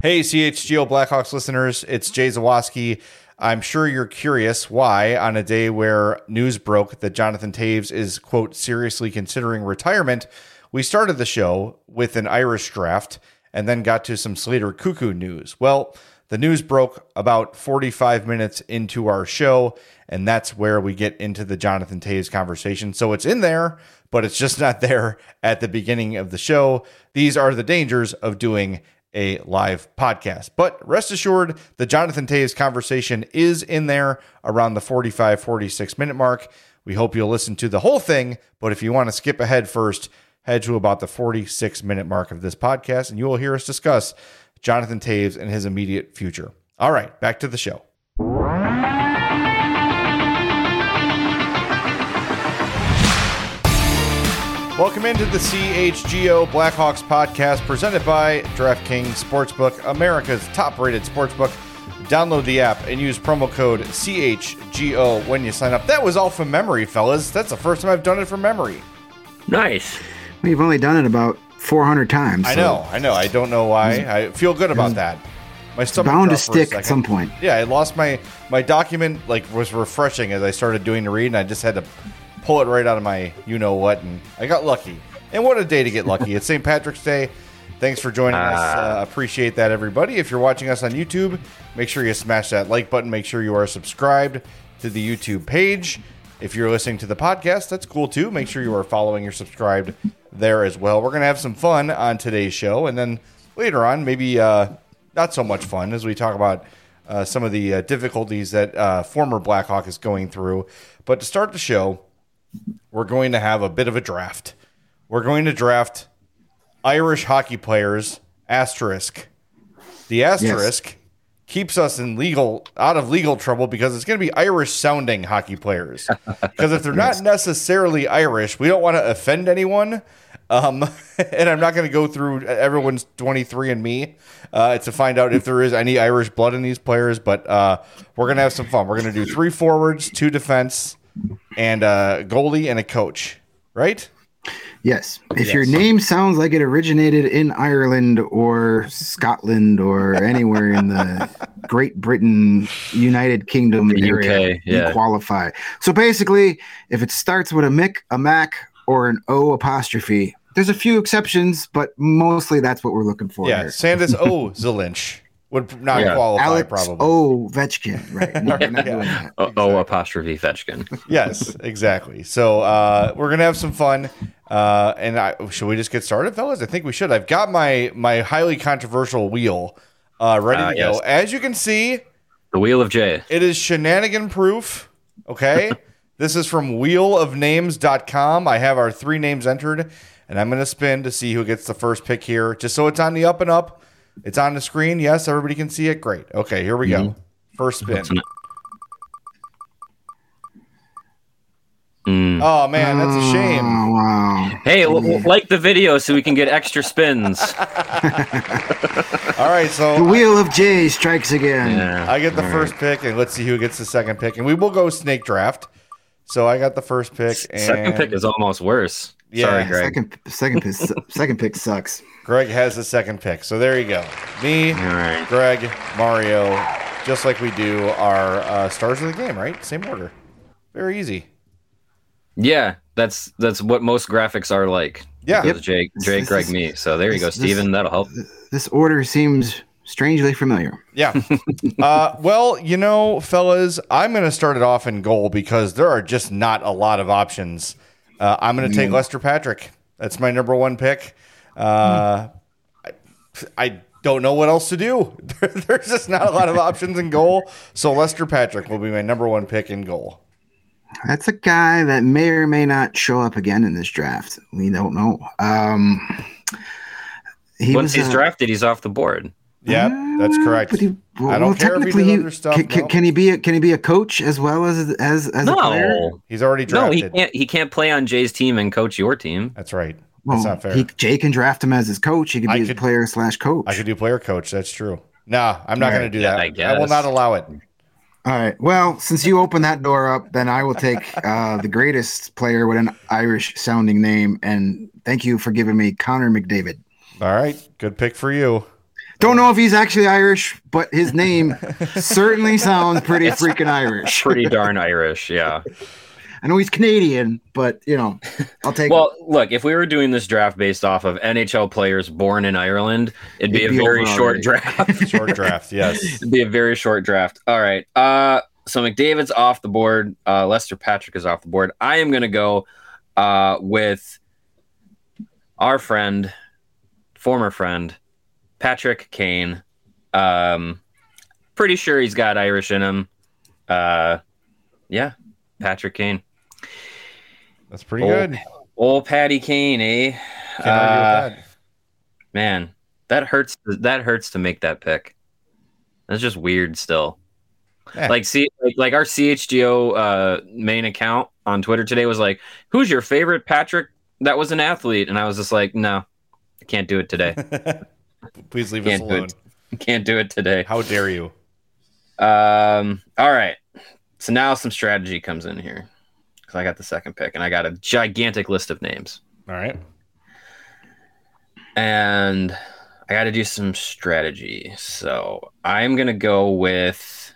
Hey, CHGO Blackhawks listeners, it's Jay Zawaski. I'm sure you're curious why, on a day where news broke that Jonathan Toews is, quote, seriously considering retirement, we started the show with an Irish draft and then got to some Slater Cuckoo news. Well, the news broke about 45 minutes into our show, and that's where we get into the Jonathan Toews conversation. So it's in there, but it's just not there at the beginning of the show. These are the dangers of doing a live podcast. But rest assured, the Jonathan Toews conversation is in there around the 45, 46 minute mark. We hope you'll listen to the whole thing, but if you want to skip ahead first, head to about the 46 minute mark of this podcast, and you will hear us discuss Jonathan Toews and his immediate future. All right, back to the show. Welcome into the CHGO Blackhawks podcast presented by DraftKings Sportsbook, America's top-rated sportsbook. Download the app and use promo code CHGO when you sign up. That was all from memory, fellas. That's the first time I've done it from memory. Nice. We've only done it about 400 times. I know. I don't know why. I feel good about that. My stomach bound to stick at some point. Yeah, I lost my document, was refreshing as I started doing the read, and I just had to pull it right out of my you-know-what, and I got lucky. And what a day to get lucky. It's St. Patrick's Day. Thanks for joining us. Appreciate that, everybody. If you're watching us on YouTube, make sure you smash that like button. Make sure you are subscribed to the YouTube page. If you're listening to the podcast, that's cool, too. Make sure you are following or subscribed there as well. We're going to have some fun on today's show, and then later on, maybe not so much fun as we talk about some of the difficulties that former Blackhawk is going through. But to start the show, we're going to have a bit of a draft. We're going to draft Irish hockey players, asterisk. The asterisk keeps us out of legal trouble because it's going to be Irish-sounding hockey players. Because if they're not necessarily Irish, we don't want to offend anyone. And I'm not going to go through everyone's 23andMe to find out if there is any Irish blood in these players. But we're going to have some fun. We're going to do 3 forwards, 2 defense, and a goalie and a coach, right? Yes. If your name sounds like it originated in Ireland or Scotland or anywhere in the Great Britain, United Kingdom area, you qualify. So basically, if it starts with a Mick, a Mac, or an O apostrophe, there's a few exceptions, but mostly that's what we're looking for. Yeah, here. Sandis O. Zelinch would not qualify, Alex probably. O. Vetchkin, right? We're not doing that. O apostrophe Vetchkin. Yes, exactly. So we're gonna have some fun. Should we just get started, fellas? I think we should. I've got my highly controversial wheel ready to go. As you can see, the Wheel of J. It is shenanigan proof. Okay. This is from wheelofnames.com. I have our 3 names entered, and I'm going to spin to see who gets the first pick here, just so it's on the up and up. It's on the screen. Yes, everybody can see it. Great. Okay, here we go. First spin. Oh, man, that's a shame. Oh, wow. Hey, like the video so we can get extra spins. All right, so the Wheel of J strikes again. Yeah. I get the first pick, and let's see who gets the second pick. And we will go snake draft. So I got the first pick. And second pick is almost worse. Yeah. Sorry, Greg. Second pick sucks. Greg has the second pick. So there you go. Me, right. Greg, Mario, just like we do our stars of the game, right? Same order. Very easy. Yeah, that's what most graphics are like. Yeah. Jay, Greg, me. So there you go, Steven. That'll help. This order seems strangely familiar. Yeah. Well, fellas, I'm going to start it off in goal because there are just not a lot of options. I'm going to take Lester Patrick. That's my number 1 pick. I don't know what else to do. There's just not a lot of options in goal. So Lester Patrick will be my number 1 pick in goal. That's a guy that may or may not show up again in this draft. We don't know. Once he's drafted, he's off the board. Yeah, that's correct. I don't care if he did other stuff. Can he be a coach as well as a player? He's already drafted. No, he can't play on Jay's team and coach your team. That's right. That's not fair. Jay can draft him as his coach. He could be his player/coach. I could do player-coach. That's true. Nah, I'm not going to do that. I will not allow it. All right. Well, since you opened that door up, then I will take the greatest player with an Irish-sounding name, and thank you for giving me Connor McDavid. All right. Good pick for you. Don't know if he's actually Irish, but his name certainly sounds pretty freaking Irish. Pretty darn Irish, yeah. I know he's Canadian, but I'll take. Well, look, if we were doing this draft based off of NHL players born in Ireland, it'd be a very short draft. Short draft, yes. It'd be a very short draft. All right. So McDavid's off the board. Lester Patrick is off the board. I am going to go with our former friend, Patrick Kane. Pretty sure he's got Irish in him. Yeah, Patrick Kane. That's pretty good. Old Patty Kane, eh? Can't argue with that. Man, that hurts. That hurts to make that pick. That's just weird still. Yeah. Like our CHGO main account on Twitter today was like, who's your favorite Patrick that was an athlete? And I was just like, no, I can't do it today. Please leave us alone. Can't do it today. How dare you? All right. So now some strategy comes in here because I got the second pick and I got a gigantic list of names. All right. And I got to do some strategy. So I'm going to go with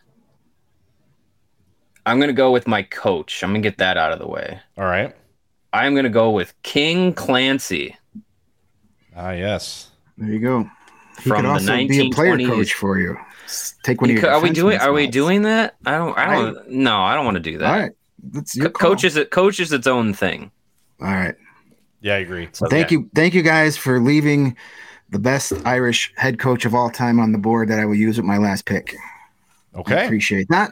my coach. I'm going to get that out of the way. All right. I'm going to go with King Clancy. Ah, yes. There you go. He From could also the be a player 1920s. coach for you. Take one of your Are we defenseman doing spots. that? I don't want to do that. All right. That's your call. Coach is its own thing. All right. Yeah, I agree. Well, thank you guys for leaving the best Irish head coach of all time on the board that I will use with my last pick. Okay. I appreciate that.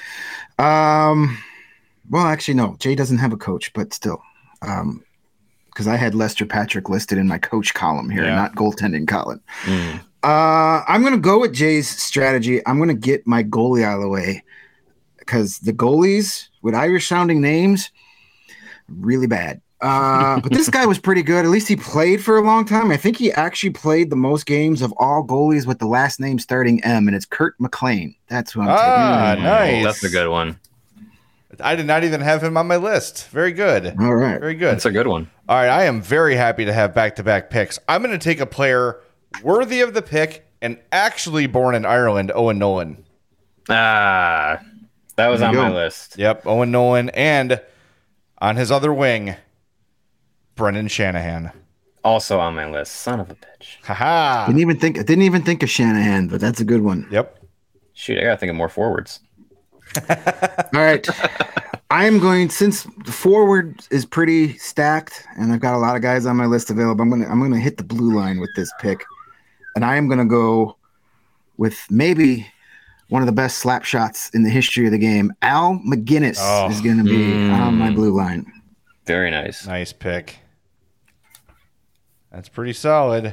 Well, actually, no. Jay doesn't have a coach, but still. Because I had Lester Patrick listed in my coach column here, not goaltending column. I'm going to go with Jay's strategy. I'm going to get my goalie out of the way because the goalies with Irish-sounding names, really bad. But this guy was pretty good. At least he played for a long time. I think he actually played the most games of all goalies with the last name starting M, and it's Kurt McLean. That's who I'm taking. Nice. That's a good one. I did not even have him on my list. Very good. All right. Very good. That's a good one. All right. I am very happy to have back-to-back picks. I'm going to take a player worthy of the pick and actually born in Ireland, Owen Nolan. That was on my list. Yep, Owen Nolan. And on his other wing, Brendan Shanahan. Also on my list. Son of a bitch. Haha. Didn't even think of Shanahan, but that's a good one. Yep. Shoot, I gotta think of more forwards. All right. I am going, since the forward is pretty stacked and I've got a lot of guys on my list available, I'm gonna hit the blue line with this pick. And I am gonna go with maybe one of the best slap shots in the history of the game. Al McGinnis is gonna be on my blue line. Very nice. Nice pick. That's pretty solid.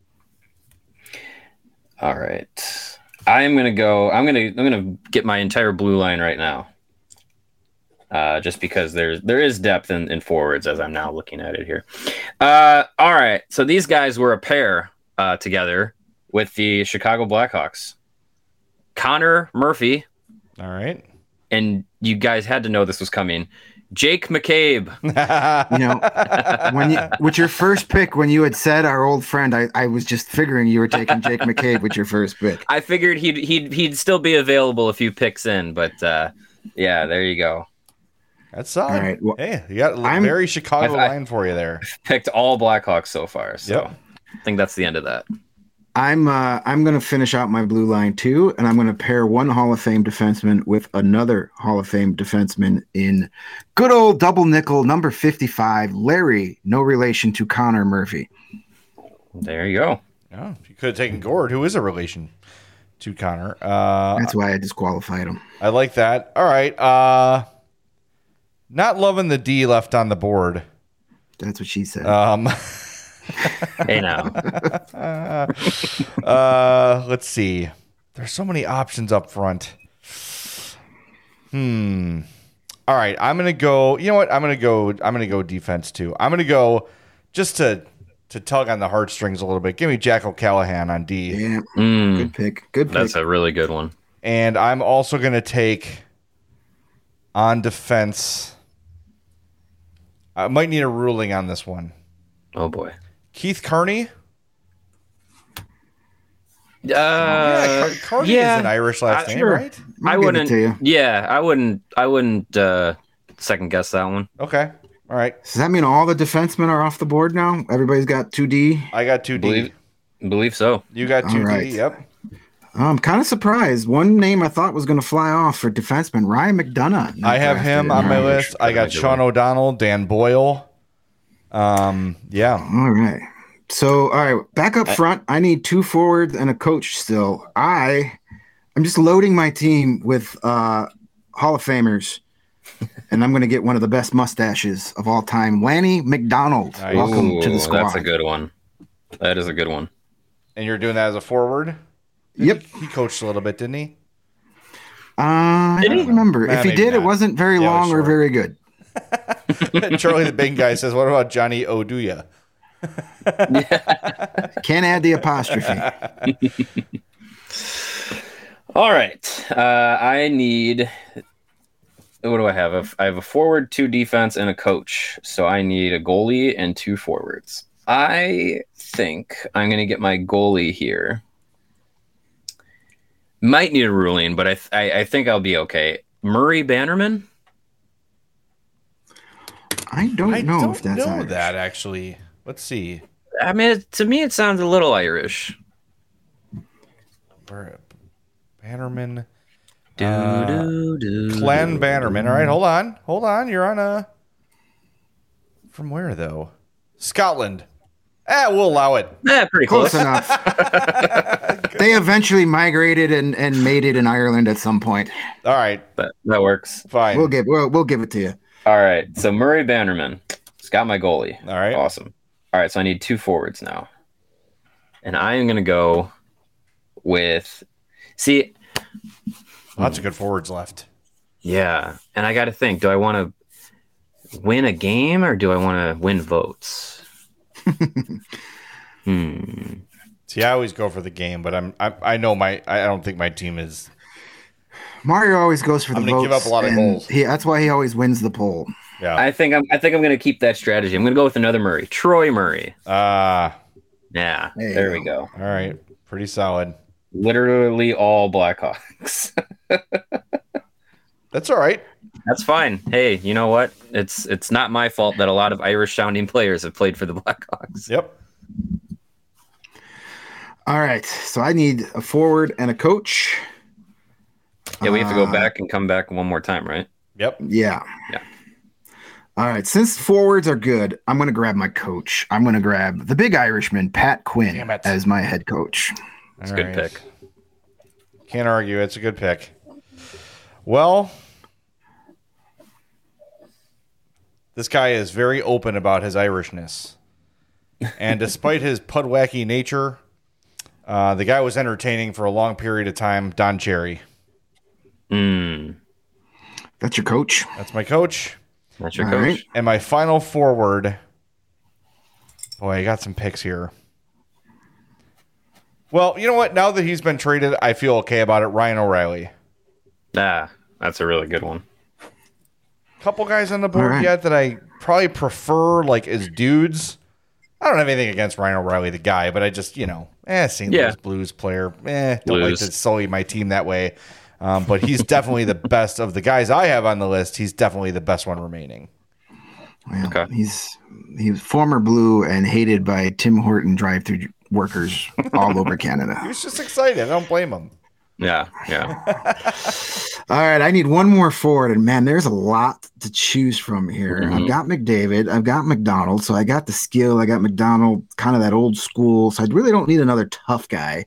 All right. I'm gonna get my entire blue line right now. Just because there is depth in forwards as I'm now looking at it here. All right. So these guys were a pair together with the Chicago Blackhawks. Connor Murphy. All right. And you guys had to know this was coming. Jake McCabe. With your first pick, when you had said our old friend, I was just figuring you were taking Jake McCabe with your first pick. I figured he'd still be available a few picks in, but yeah, there you go. That's solid. All right, well, hey, you got a very Chicago line for you there. Picked all Blackhawks so far, so yep. I think that's the end of that. I'm going to finish out my blue line too, and I'm going to pair one Hall of Fame defenseman with another Hall of Fame defenseman in good old double nickel number 55, Larry, no relation to Connor Murphy. There you go. Yeah, you could have taken Gord, who is a relation to Connor. That's why I disqualified him. I like that. All right. Not loving the D left on the board. That's what she said. Hey now. Let's see. There's so many options up front. All right, I'm gonna go. You know what? I'm gonna go defense too. I'm gonna go just to tug on the heartstrings a little bit. Give me Jack O'Callahan on D. Yeah, good pick. Good pick. That's a really good one. And I'm also gonna take on defense. I might need a ruling on this one. Oh boy. Keith Kearney. Carney is an Irish last name, right? I wouldn't. Yeah, I wouldn't second guess that one. Okay. All right. Does that mean all the defensemen are off the board now? Everybody's got 2D? I got 2D. Believe so. You got 2D, right. Yep. I'm kind of surprised. One name I thought was going to fly off for defenseman, Ryan McDonough. I have him on my list. I got Sean O'Donnell, Dan Boyle. Yeah. All right. So, all right, back up front. I need 2 forwards and a coach still. I'm just loading my team with Hall of Famers, and I'm going to get one of the best mustaches of all time, Lanny McDonald. Nice. Welcome to the squad. That's a good one. That is a good one. And you're doing that as a forward? Yep. He coached a little bit, didn't he? I don't remember. If he did, it wasn't very long or very good. Charlie the Big Guy says, what about Johnny Oduya? Can't add the apostrophe. All right. I need... What do I have? I have a forward, 2 defense, and a coach. So I need a goalie and 2 forwards. I think I'm going to get my goalie here. Might need a ruling, but I think I'll be okay. Murray Bannerman? I don't know if that's Irish. That actually. Let's see. I mean, to me, it sounds a little Irish. Bannerman. Glenn Bannerman. All right, hold on. You're on a. From where though? Scotland. We'll allow it. Pretty close enough. They eventually migrated and made it in Ireland at some point. All right, that works. Fine. We'll give it to you. All right. So Murray Bannerman. It's got my goalie. All right. Awesome. All right. So I need 2 forwards now, and I am going to go with. See. Lots of good forwards left. Yeah, and I got to think: do I want to win a game or do I want to win votes? See, I always go for the game, but I know I don't think my team is. Mario always goes for the votes. I'm going to give up a lot of goals. That's why he always wins the poll. Yeah, I think I'm going to keep that strategy. I'm going to go with another Murray, Troy Murray. Yeah, there we go. All right, pretty solid. Literally all Blackhawks. That's all right. That's fine. Hey, you know what? It's not my fault that a lot of Irish sounding players have played for the Blackhawks. Yep. All right. So I need a forward and a coach. Yeah, we have to go back and come back one more time, right? Yep. Yeah. All right. Since forwards are good, I'm going to grab my coach. I'm going to grab the big Irishman, Pat Quinn, as my head coach. That's a good pick. Can't argue. It's a good pick. Well, this guy is very open about his Irishness. And despite his pudwacky nature, the guy was entertaining for a long period of time. Don Cherry. That's your coach? That's my coach. That's your coach. Right. And my final forward. Boy, I got some picks here. Well, you know what? Now that he's been traded, I feel okay about it. Ryan O'Reilly. That's a really good one. Couple guys on the board yet that I probably prefer, like, as dudes. I don't have anything against Ryan O'Reilly, the guy, but I just, St. Louis Blues player. Don't like to sully my team that way. But he's definitely the best of the guys I have on the list. He's definitely the best one remaining. Well, okay. He's former Blue and hated by Tim Horton drive-through workers all over Canada. He was just excited. I don't blame him. Yeah. All right, I need one more forward, and man, there's a lot to choose from here. Mm-hmm. I've got McDavid, I've got McDonald, so I got the skill. I got McDonald, kind of that old school. So I really don't need another tough guy.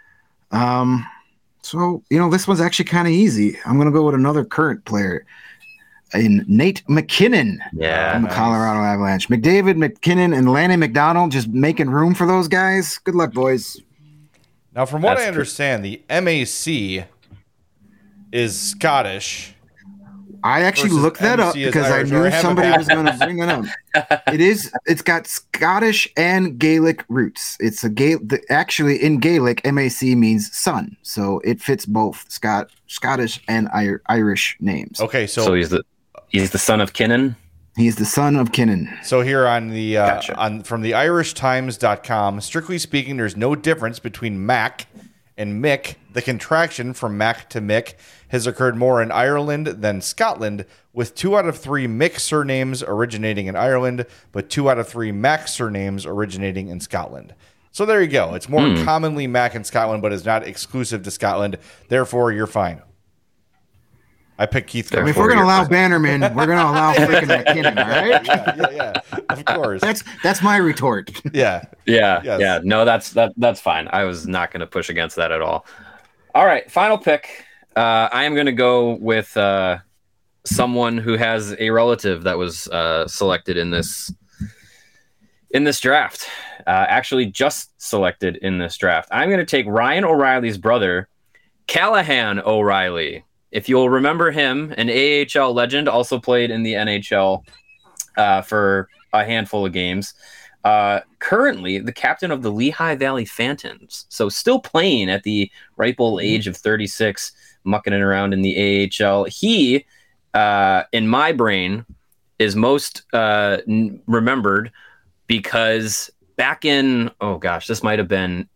So this one's actually kind of easy. I'm gonna go with another current player, in Nate McKinnon. Yeah, from the Colorado Avalanche. McDavid, McKinnon, and Lanny McDonald, just making room for those guys. Good luck, boys. Now, from what I understand, the MAC is Scottish. I actually looked that up because I knew somebody was going to bring it up. It's got Scottish and Gaelic roots. It's actually in Gaelic, MAC means son, so it fits both Scottish and Irish names. Okay, so he's the son of Kinnan. He's the son of Kinnan. So here on the from the IrishTimes.com, strictly speaking, there's no difference between Mac And Mick, the contraction from Mac to Mick, has occurred more in Ireland than Scotland, with 2 out of 3 Mick surnames originating in Ireland, but 2 out of 3 Mac surnames originating in Scotland. So there you go. It's more commonly Mac in Scotland, but is not exclusive to Scotland. Therefore, you're fine. I picked Keith. I mean, if we're going to allow Bannerman, we're going to allow freaking McKinnon, all right? Yeah. Of course. That's my retort. Yeah. Yeah. No, that's fine. I was not going to push against that at all. All right, final pick. I am going to go with someone who has a relative that was selected in this draft. Actually, just selected in this draft. I'm going to take Ryan O'Reilly's brother, Callahan O'Reilly. If you'll remember him, an AHL legend, also played in the NHL for a handful of games. Currently, the captain of the Lehigh Valley Phantoms. So still playing at the ripe old age of 36, mucking it around in the AHL. He, in my brain, is most remembered because back in, this might have been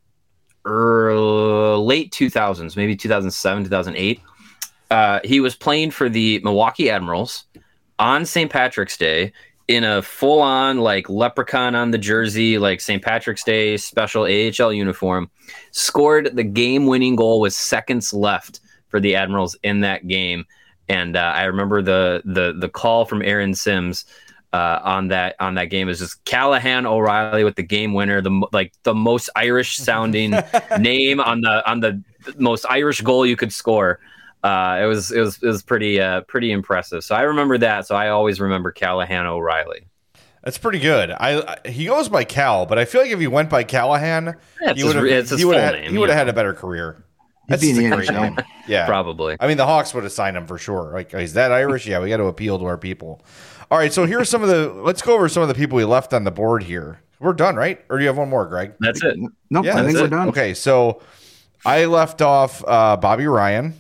late 2000s, maybe 2007, 2008. He was playing for the Milwaukee Admirals on St. Patrick's Day in a full-on like leprechaun on the jersey, like St. Patrick's Day special AHL uniform. Scored the game-winning goal with seconds left for the Admirals in that game, and I remember the call from Aaron Sims on that game is just Callahan O'Reilly with the game winner, the most Irish sounding name on the most Irish goal you could score. It was pretty impressive. So I remember that. So I always remember Callahan O'Reilly. That's pretty good. He goes by Cal, but I feel like if he went by Callahan, he would have had a better career. That's a great name. Yeah, probably. I mean, the Hawks would have signed him for sure. Like, is that Irish? Yeah, we got to appeal to our people. All right, so here's let's go over some of the people we left on the board here. We're done, right? Or do you have one more, Greg? That's it. Nope, I think we're done. Okay, so I left off Bobby Ryan.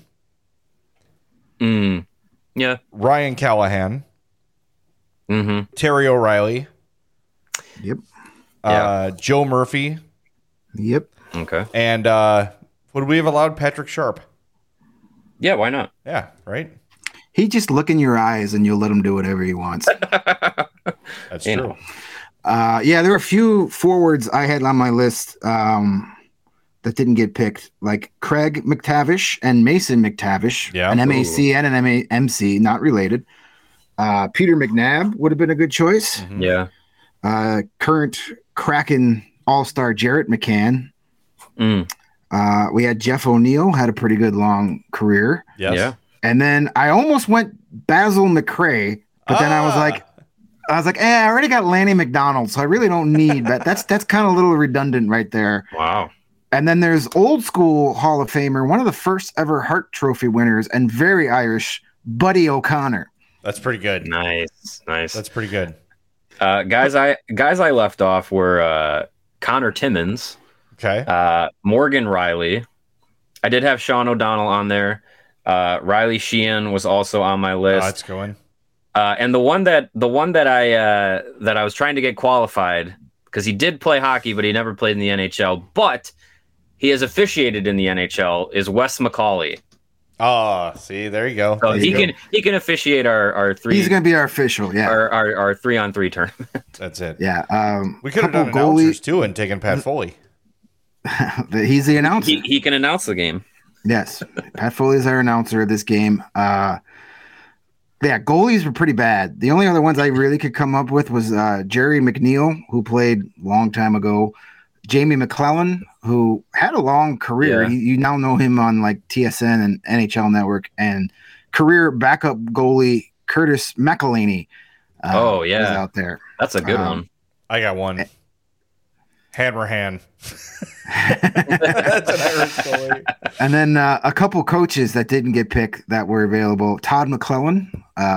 Yeah. Ryan Callahan. Mm-hmm. Terry O'Reilly. Yep. Joe Murphy. Yep. Okay. And would we have allowed Patrick Sharp? Yeah, why not? Yeah, right? He just look in your eyes and you'll let him do whatever he wants. That's true. Yeah, there were a few forwards I had on my list that didn't get picked, like Craig McTavish and Mason McTavish, an MAC and an MC, not related. Peter McNabb would have been a good choice. Mm-hmm. Yeah. Current Kraken All-Star Jarrett McCann. We had Jeff O'Neill, had a pretty good long career. Yes. Yeah. And then I almost went Basil McRae, but then I was like, I already got Lanny McDonald, so I really don't need that. That's kind of a little redundant right there. Wow. And then there's old school Hall of Famer, one of the first ever Hart Trophy winners and very Irish, Buddy O'Connor. That's pretty good. Nice. That's pretty good. Guys I left off were Connor Timmins. Okay. Morgan Riley. I did have Sean O'Donnell on there. Riley Sheehan was also on my list. That's going. And the one that I was trying to get qualified, because he did play hockey, but he never played in the NHL. But he has officiated in the NHL, is Wes McCauley. Oh, see, there you go. So he can officiate our three. He's going to be our official, yeah. Our 3-on-3 tournament. That's it. Yeah. We could have done announcers too and taken Pat Foley. He's the announcer. He can announce the game. Yes, Pat Foley is our announcer of this game. Yeah, goalies were pretty bad. The only other ones I really could come up with was Jerry McNeil, who played a long time ago. Jamie McClellan, who had a long career. Yeah. You now know him on like TSN and NHL Network. And career backup goalie Curtis McElhaney. Was out there. That's a good one. I got one. Hanrahan. That's an Irish goalie. And then a couple coaches that didn't get picked that were available. Todd McClellan.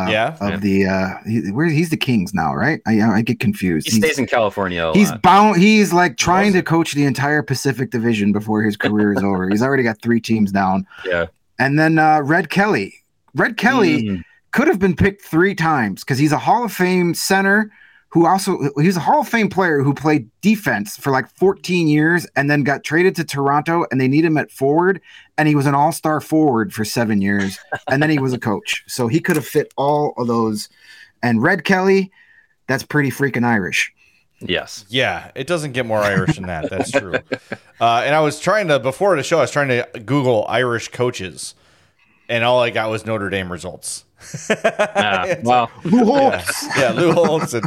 He's the Kings now, right? I get confused. He stays in California. He's bound. He's like trying to coach the entire Pacific Division before his career is over. He's already got 3 teams down. Yeah. And then Red Kelly. Red Kelly could have been picked 3 times because he's a Hall of Fame center he's a Hall of Fame player who played defense for like 14 years and then got traded to Toronto and they need him at forward. And he was an all-star forward for 7 years. And then he was a coach. So he could have fit all of those. And Red Kelly, that's pretty freaking Irish. Yes. Yeah, it doesn't get more Irish than that. That's true. And I was trying to, before the show, I was trying to Google Irish coaches. And all I got was Notre Dame results. Well, Lou Holtz. Yeah, Lou Holtz. And,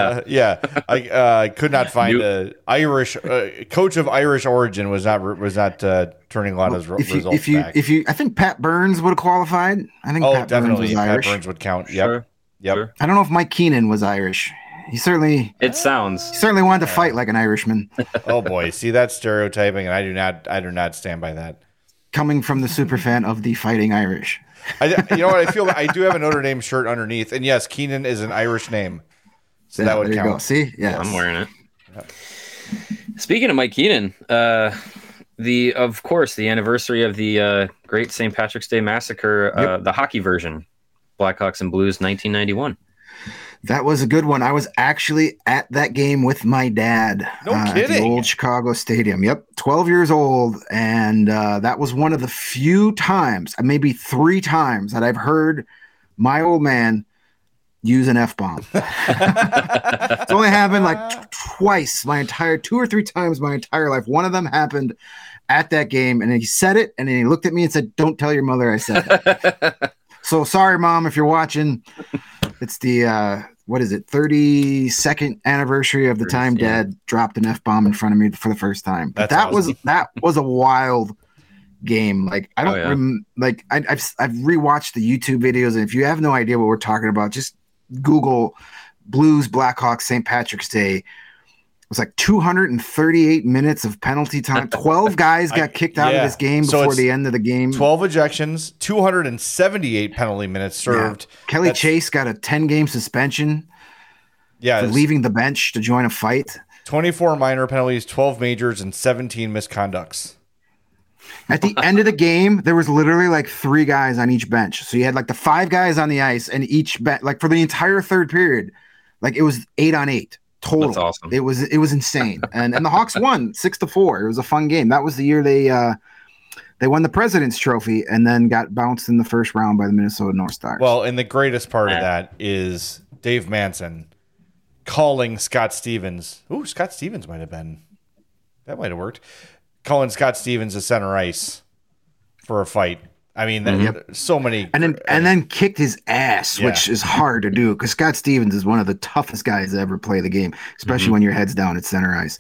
I could not find a Irish coach of Irish origin was not turning a lot of results back. I think Pat Burns would have qualified. I think Pat definitely Burns was Irish. Pat Burns would count. Sure. Yep. Sure. I don't know if Mike Keenan was Irish. He certainly wanted to fight like an Irishman. Oh boy, see, that's stereotyping, and I do not stand by that. Coming from the super fan of the Fighting Irish. You know what? I feel I do have a Notre Dame shirt underneath, and yes, Keenan is an Irish name, so that would count. Go. See, yeah, I'm wearing it. Yeah. Speaking of Mike Keenan, of course the anniversary of the Great St. Patrick's Day Massacre, the hockey version, Blackhawks and Blues, 1991. That was a good one. I was actually at that game with my dad. No kidding. At the old Chicago Stadium. Yep. 12 years old. And that was one of the few times, maybe 3 times, that I've heard my old man use an F-bomb. It's only happened like twice 2 or 3 times my entire life. One of them happened at that game, and he said it, and then he looked at me and said, "Don't tell your mother I said it." So sorry, Mom, if you're watching. It's the 32nd anniversary of the time Dad dropped an F-bomb in front of me for the first time. But that was a wild game. Like I don't I've rewatched the YouTube videos, and if you have no idea what we're talking about, just Google Blues Blackhawks St. Patrick's Day. It was like 238 minutes of penalty time. 12 guys got kicked out of this game before the end of the game. 12 ejections, 278 penalty minutes served. Yeah. Kelly Chase got a 10-game suspension for leaving the bench to join a fight. 24 minor penalties, 12 majors, and 17 misconducts. At the end of the game, there was literally like 3 guys on each bench. So you had like the 5 guys on the ice, and each like for the entire third period, like it was 8-on-8. Total. That's awesome. It was insane. And the Hawks won 6-4. It was a fun game. That was the year they won the President's Trophy and then got bounced in the first round by the Minnesota North Stars. Well, and the greatest part of that is Dave Manson calling Scott Stevens. Ooh, Scott Stevens might have worked. Calling Scott Stevens to center ice for a fight. I mean, so many, and then kicked his ass, which is hard to do because Scott Stevens is one of the toughest guys to ever play the game, especially when your head's down at center ice.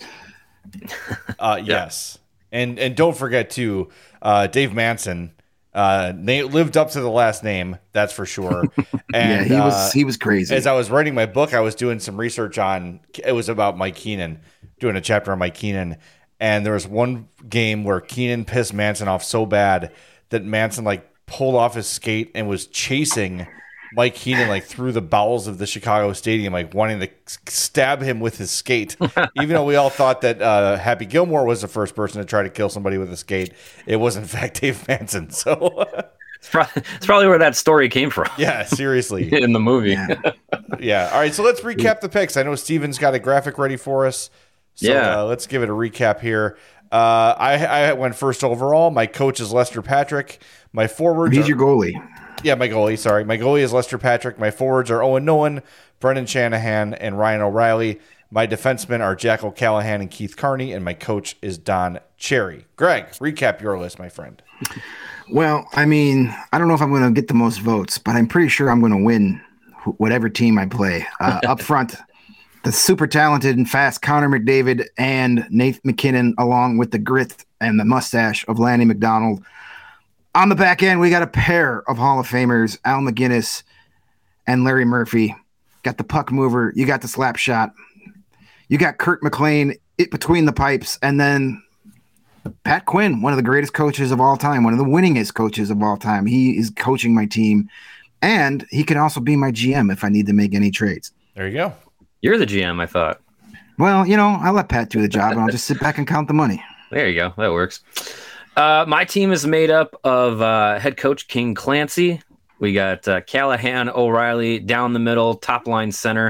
Yes, and don't forget too, Dave Manson lived up to the last name, that's for sure. And he was crazy. As I was writing my book, I was doing some research on. It was about Mike Keenan, doing a chapter on Mike Keenan, and there was one game where Keenan pissed Manson off so bad that Manson like pulled off his skate and was chasing Mike Keenan like through the bowels of the Chicago Stadium, like wanting to stab him with his skate. Even though we all thought that Happy Gilmore was the first person to try to kill somebody with a skate, it was in fact Dave Manson. So it's probably where that story came from. Yeah, seriously. In the movie. Yeah. All right, so let's recap the picks. I know Steven's got a graphic ready for us. So let's give it a recap here. I went first overall. My coach is Lester Patrick. My forwards. He's your goalie. Yeah, my goalie. Sorry, my goalie is Lester Patrick. My forwards are Owen Nolan, Brendan Shanahan, and Ryan O'Reilly. My defensemen are Jack O'Callahan and Keith Carney, and my coach is Don Cherry. Greg, recap your list, my friend. Well, I mean, I don't know if I'm going to get the most votes, but I'm pretty sure I'm going to win whatever team I play. Up front, the super talented and fast Connor McDavid and Nate McKinnon, along with the grit and the mustache of Lanny McDonald. On the back end, we got a pair of Hall of Famers, Al McGinnis and Larry Murphy. Got the puck mover. You got the slap shot. You got Kurt McLean between the pipes. And then Pat Quinn, one of the greatest coaches of all time, one of the winningest coaches of all time. He is coaching my team. And he can also be my GM if I need to make any trades. There you go. You're the GM, I thought. Well, I'll let Pat do the job, and I'll just sit back and count the money. There you go. That works. My team is made up of head coach King Clancy. We got Callahan, O'Reilly down the middle, top line center.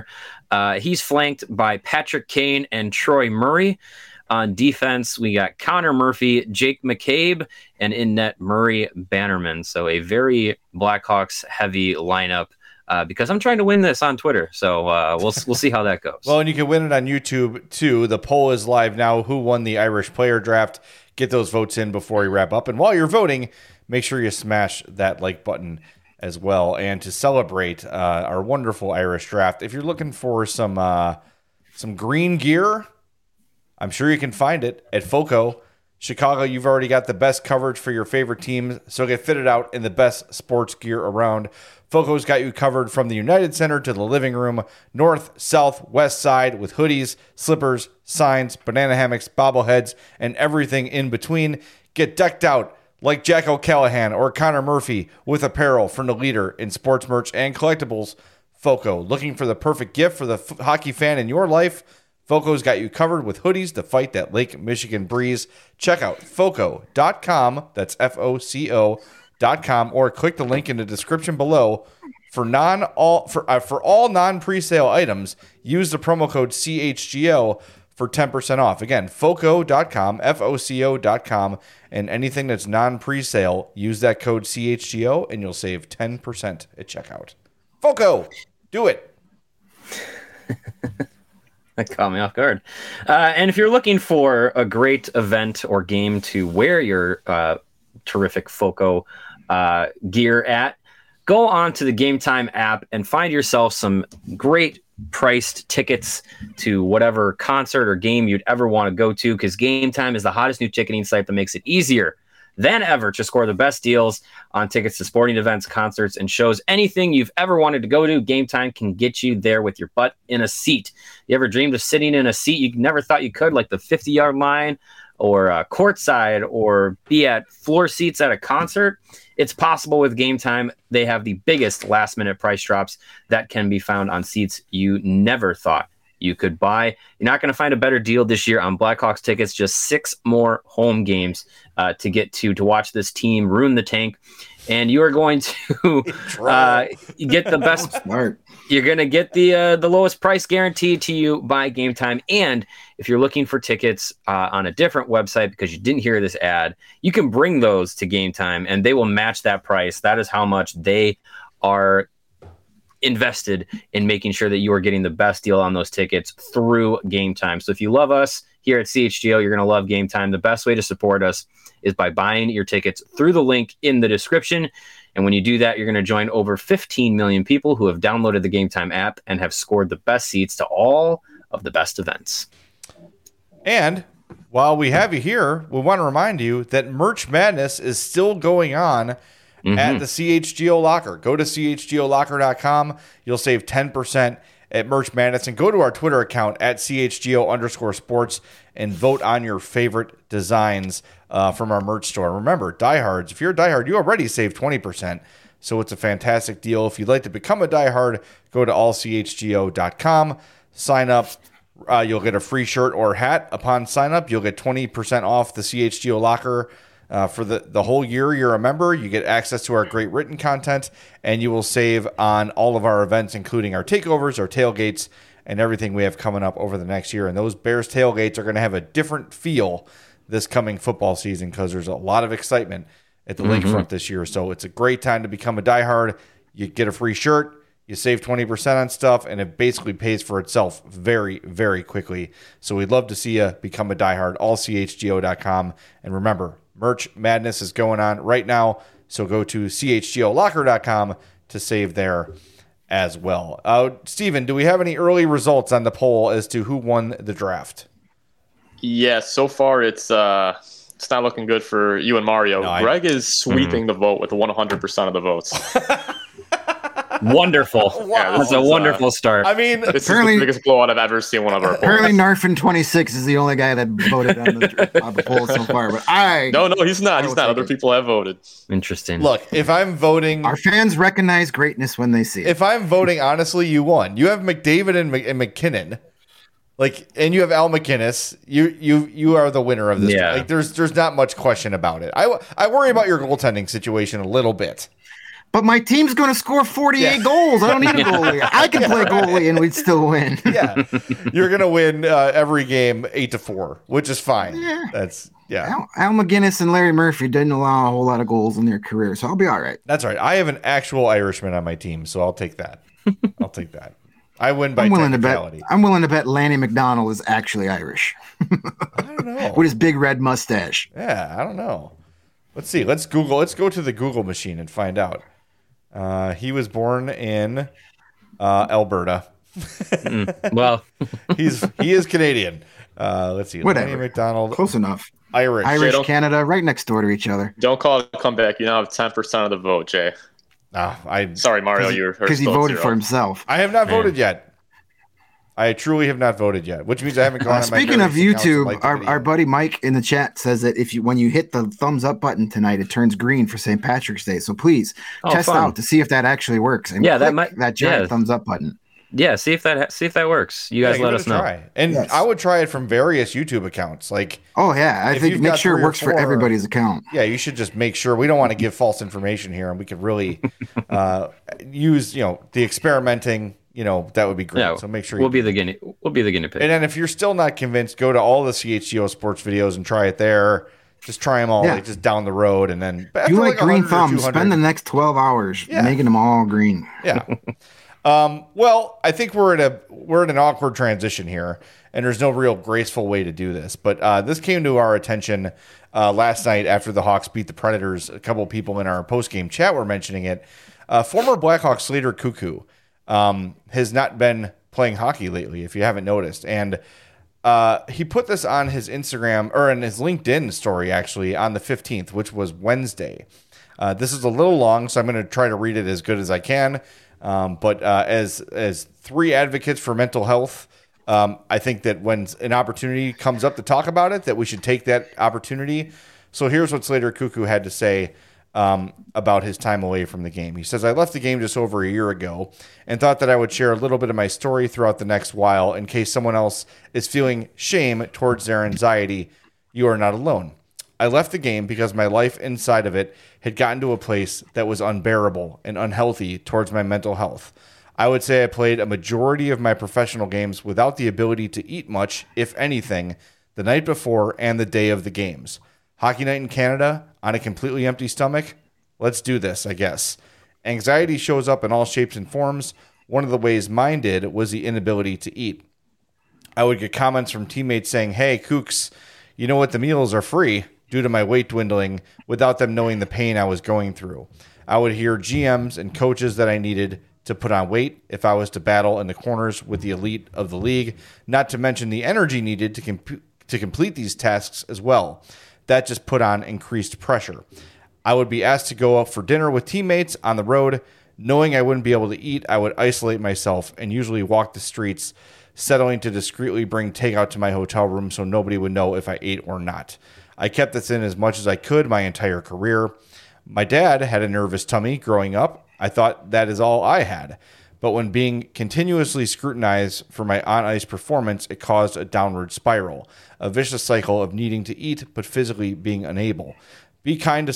He's flanked by Patrick Kane and Troy Murray. On defense, we got Connor Murphy, Jake McCabe, and in net Murray Bannerman. So a very Blackhawks heavy lineup. Because I'm trying to win this on Twitter, so we'll see how that goes. Well, and you can win it on YouTube too. The poll is live now. Who won the Irish player draft? Get those votes in before we wrap up. And while you're voting, make sure you smash that like button as well. And to celebrate our wonderful Irish draft, if you're looking for some green gear, I'm sure you can find it at FOCO. Chicago, you've already got the best coverage for your favorite teams, so get fitted out in the best sports gear around. FOCO's got you covered from the United Center to the living room, north, south, west side, with hoodies, slippers, signs, banana hammocks, bobbleheads, and everything in between. Get decked out like Jack O'Callahan or Connor Murphy with apparel from the leader in sports merch and collectibles, FOCO. Looking for the perfect gift for the hockey fan in your life? FOCO's got you covered with hoodies to fight that Lake Michigan breeze. Check out FOCO.com, that's FOCO.com, or click the link in the description below. For all non-presale items, use the promo code CHGO for 10% off. Again, FOCO.com, FOCO.com, and anything that's non-presale, use that code CHGO, and you'll save 10% at checkout. FOCO, do it. That caught me off guard. And if you're looking for a great event or game to wear your terrific FOCO gear at, go on to the Game Time app and find yourself some great priced tickets to whatever concert or game you'd ever want to go to, because Game Time is the hottest new ticketing site that makes it easier than ever to score the best deals on tickets to sporting events, concerts, and shows. Anything you've ever wanted to go to, Game Time can get you there with your butt in a seat. You ever dreamed of sitting in a seat you never thought you could, like the 50-yard line or courtside, or be at floor seats at a concert? It's possible with Game Time. They have the biggest last-minute price drops that can be found on seats you never thought you could buy. You're not going to find a better deal this year on Blackhawks tickets. Just 6 more home games to get to watch this team ruin the tank. And you are going to get the best. Smart. You're going to get the lowest price guaranteed to you by Game Time. And if you're looking for tickets on a different website because you didn't hear this ad, you can bring those to Game Time and they will match that price. That is how much they are invested in making sure that you are getting the best deal on those tickets through Game Time. So if you love us here at CHGO, you're going to love Game Time. The best way to support us is by buying your tickets through the link in the description. And when you do that, you're going to join over 15 million people who have downloaded the Game Time app and have scored the best seats to all of the best events. And while we have you here, we want to remind you that Merch Madness is still going on at the CHGO Locker. Go to chgolocker.com. You'll save 10% at Merch Madness. And go to our Twitter account at CHGO_sports and vote on your favorite designs from our merch store. Remember, diehards, if you're a diehard, you already saved 20%. So it's a fantastic deal. If you'd like to become a diehard, go to allchgo.com. Sign up. You'll get a free shirt or hat upon sign up. You'll get 20% off the CHGO Locker. For the whole year you're a member. You get access to our great written content, and you will save on all of our events, including our takeovers, our tailgates, and everything we have coming up over the next year. And those Bears tailgates are going to have a different feel this coming football season because there's a lot of excitement at the lakefront this year. So it's a great time to become a diehard. You get a free shirt, you save 20% on stuff, and it basically pays for itself very, very quickly. So we'd love to see you become a diehard, allchgo.com. And remember, Merch Madness is going on right now, so go to chgolocker.com to save there as well. Steven, do we have any early results on the poll as to who won the draft? Yeah, so far it's not looking good for you and Mario. No, Greg is sweeping the vote with 100% of the votes. Wonderful. Wow. That's a wonderful start. I mean, this is the biggest blowout I've ever seen one of our polls. Apparently Narfin26 is the only guy that voted on the poll so far. But No, he's not. He's not. Other people have voted. Interesting. Look, if I'm voting... Our fans recognize greatness when they see it. If I'm voting, honestly, you won. You have McDavid and McKinnon. And you have Al McInnes. You are the winner of this. Yeah. There's not much question about it. I worry about your goaltending situation a little bit. But my team's going to score 48 goals. I don't need a goalie. I can play goalie and we'd still win. Yeah, you're going to win every game 8-4, which is fine. Yeah. That's Al McGinnis and Larry Murphy didn't allow a whole lot of goals in their career, so I'll be all right. That's right. I have an actual Irishman on my team, so I'll take that. I win by technicality. I'm willing to bet Lanny McDonald is actually Irish. I don't know. With his big red mustache. Yeah, I don't know. Let's see. Let's Google. Let's go to the Google machine and find out. He was born in Alberta. Well, he is Canadian. Let's see. Whatever. Lanny McDonald. Close enough. Irish. Canada, right next door to each other. Don't call it a comeback. You now have 10% of the vote, Jay. Sorry, Mario. Because he voted for himself. I have not voted yet. I truly have not voted yet, which means I haven't gone. Speaking of YouTube, our buddy Mike in the chat says that when you hit the thumbs up button tonight, it turns green for St. Patrick's Day. So please test out to see if that actually works. And that giant thumbs up button. Yeah, see if that works. You guys let us know. And I would try it from various YouTube accounts. I think make sure it works for everybody's account. Yeah, you should just make sure. We don't want to give false information here, and we could really use the experimenting. That would be great. Yeah, so make sure we'll be the guinea pig. And then if you're still not convinced, go to all the CHGO sports videos and try it there. Just try them all, just down the road, and then you like green thumbs. Spend the next 12 hours making them all green. Yeah. Well, I think we're in an awkward transition here, and there's no real graceful way to do this. But this came to our attention last night after the Hawks beat the Predators. A couple of people in our post-game chat were mentioning it. Former Blackhawk Slater Cuckoo has not been playing hockey lately, if you haven't noticed. And he put this on his Instagram, or in his LinkedIn story, actually, on the 15th, which was Wednesday. This is a little long, so I'm going to try to read it as good as I can. But as three advocates for mental health, I think that when an opportunity comes up to talk about it, that we should take that opportunity. So here's what Slater Cuckoo had to say about his time away from the game. He says, "I left the game just over a year ago and thought that I would share a little bit of my story throughout the next while in case someone else is feeling shame towards their anxiety. You are not alone. I left the game because my life inside of it had gotten to a place that was unbearable and unhealthy towards my mental health. I would say I played a majority of my professional games without the ability to eat much, if anything, the night before and the day of the games. Hockey night in Canada on a completely empty stomach? Let's do this, I guess. Anxiety shows up in all shapes and forms. One of the ways mine did was the inability to eat. I would get comments from teammates saying, 'Hey, Kooks, you know what? The meals are free,' due to my weight dwindling, without them knowing the pain I was going through. I would hear GMs and coaches that I needed to put on weight if I was to battle in the corners with the elite of the league, not to mention the energy needed to complete these tasks as well. That just put on increased pressure. I would be asked to go out for dinner with teammates on the road. Knowing I wouldn't be able to eat, I would isolate myself and usually walk the streets, settling to discreetly bring takeout to my hotel room so nobody would know if I ate or not. I kept this in as much as I could my entire career. My dad had a nervous tummy growing up. I thought that is all I had. But when being continuously scrutinized for my on-ice performance, it caused a downward spiral, a vicious cycle of needing to eat but physically being unable. Be kind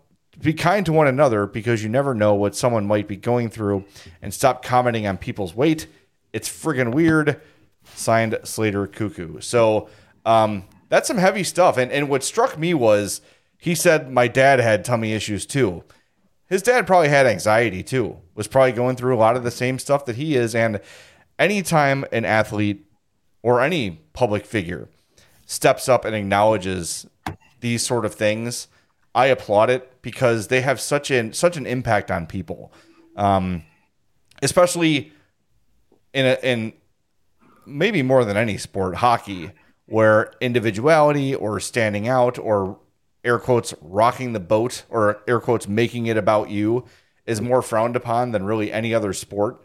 to one another because you never know what someone might be going through, and stop commenting on people's weight. It's friggin' weird." Signed, Slater Cuckoo. So, that's some heavy stuff. And what struck me was he said my dad had tummy issues too. His dad probably had anxiety too, was probably going through a lot of the same stuff that he is. And anytime an athlete or any public figure steps up and acknowledges these sort of things, I applaud it because they have such an impact on people, especially in maybe more than any sport, hockey, where individuality or standing out or air quotes rocking the boat or air quotes making it about you is more frowned upon than really any other sport.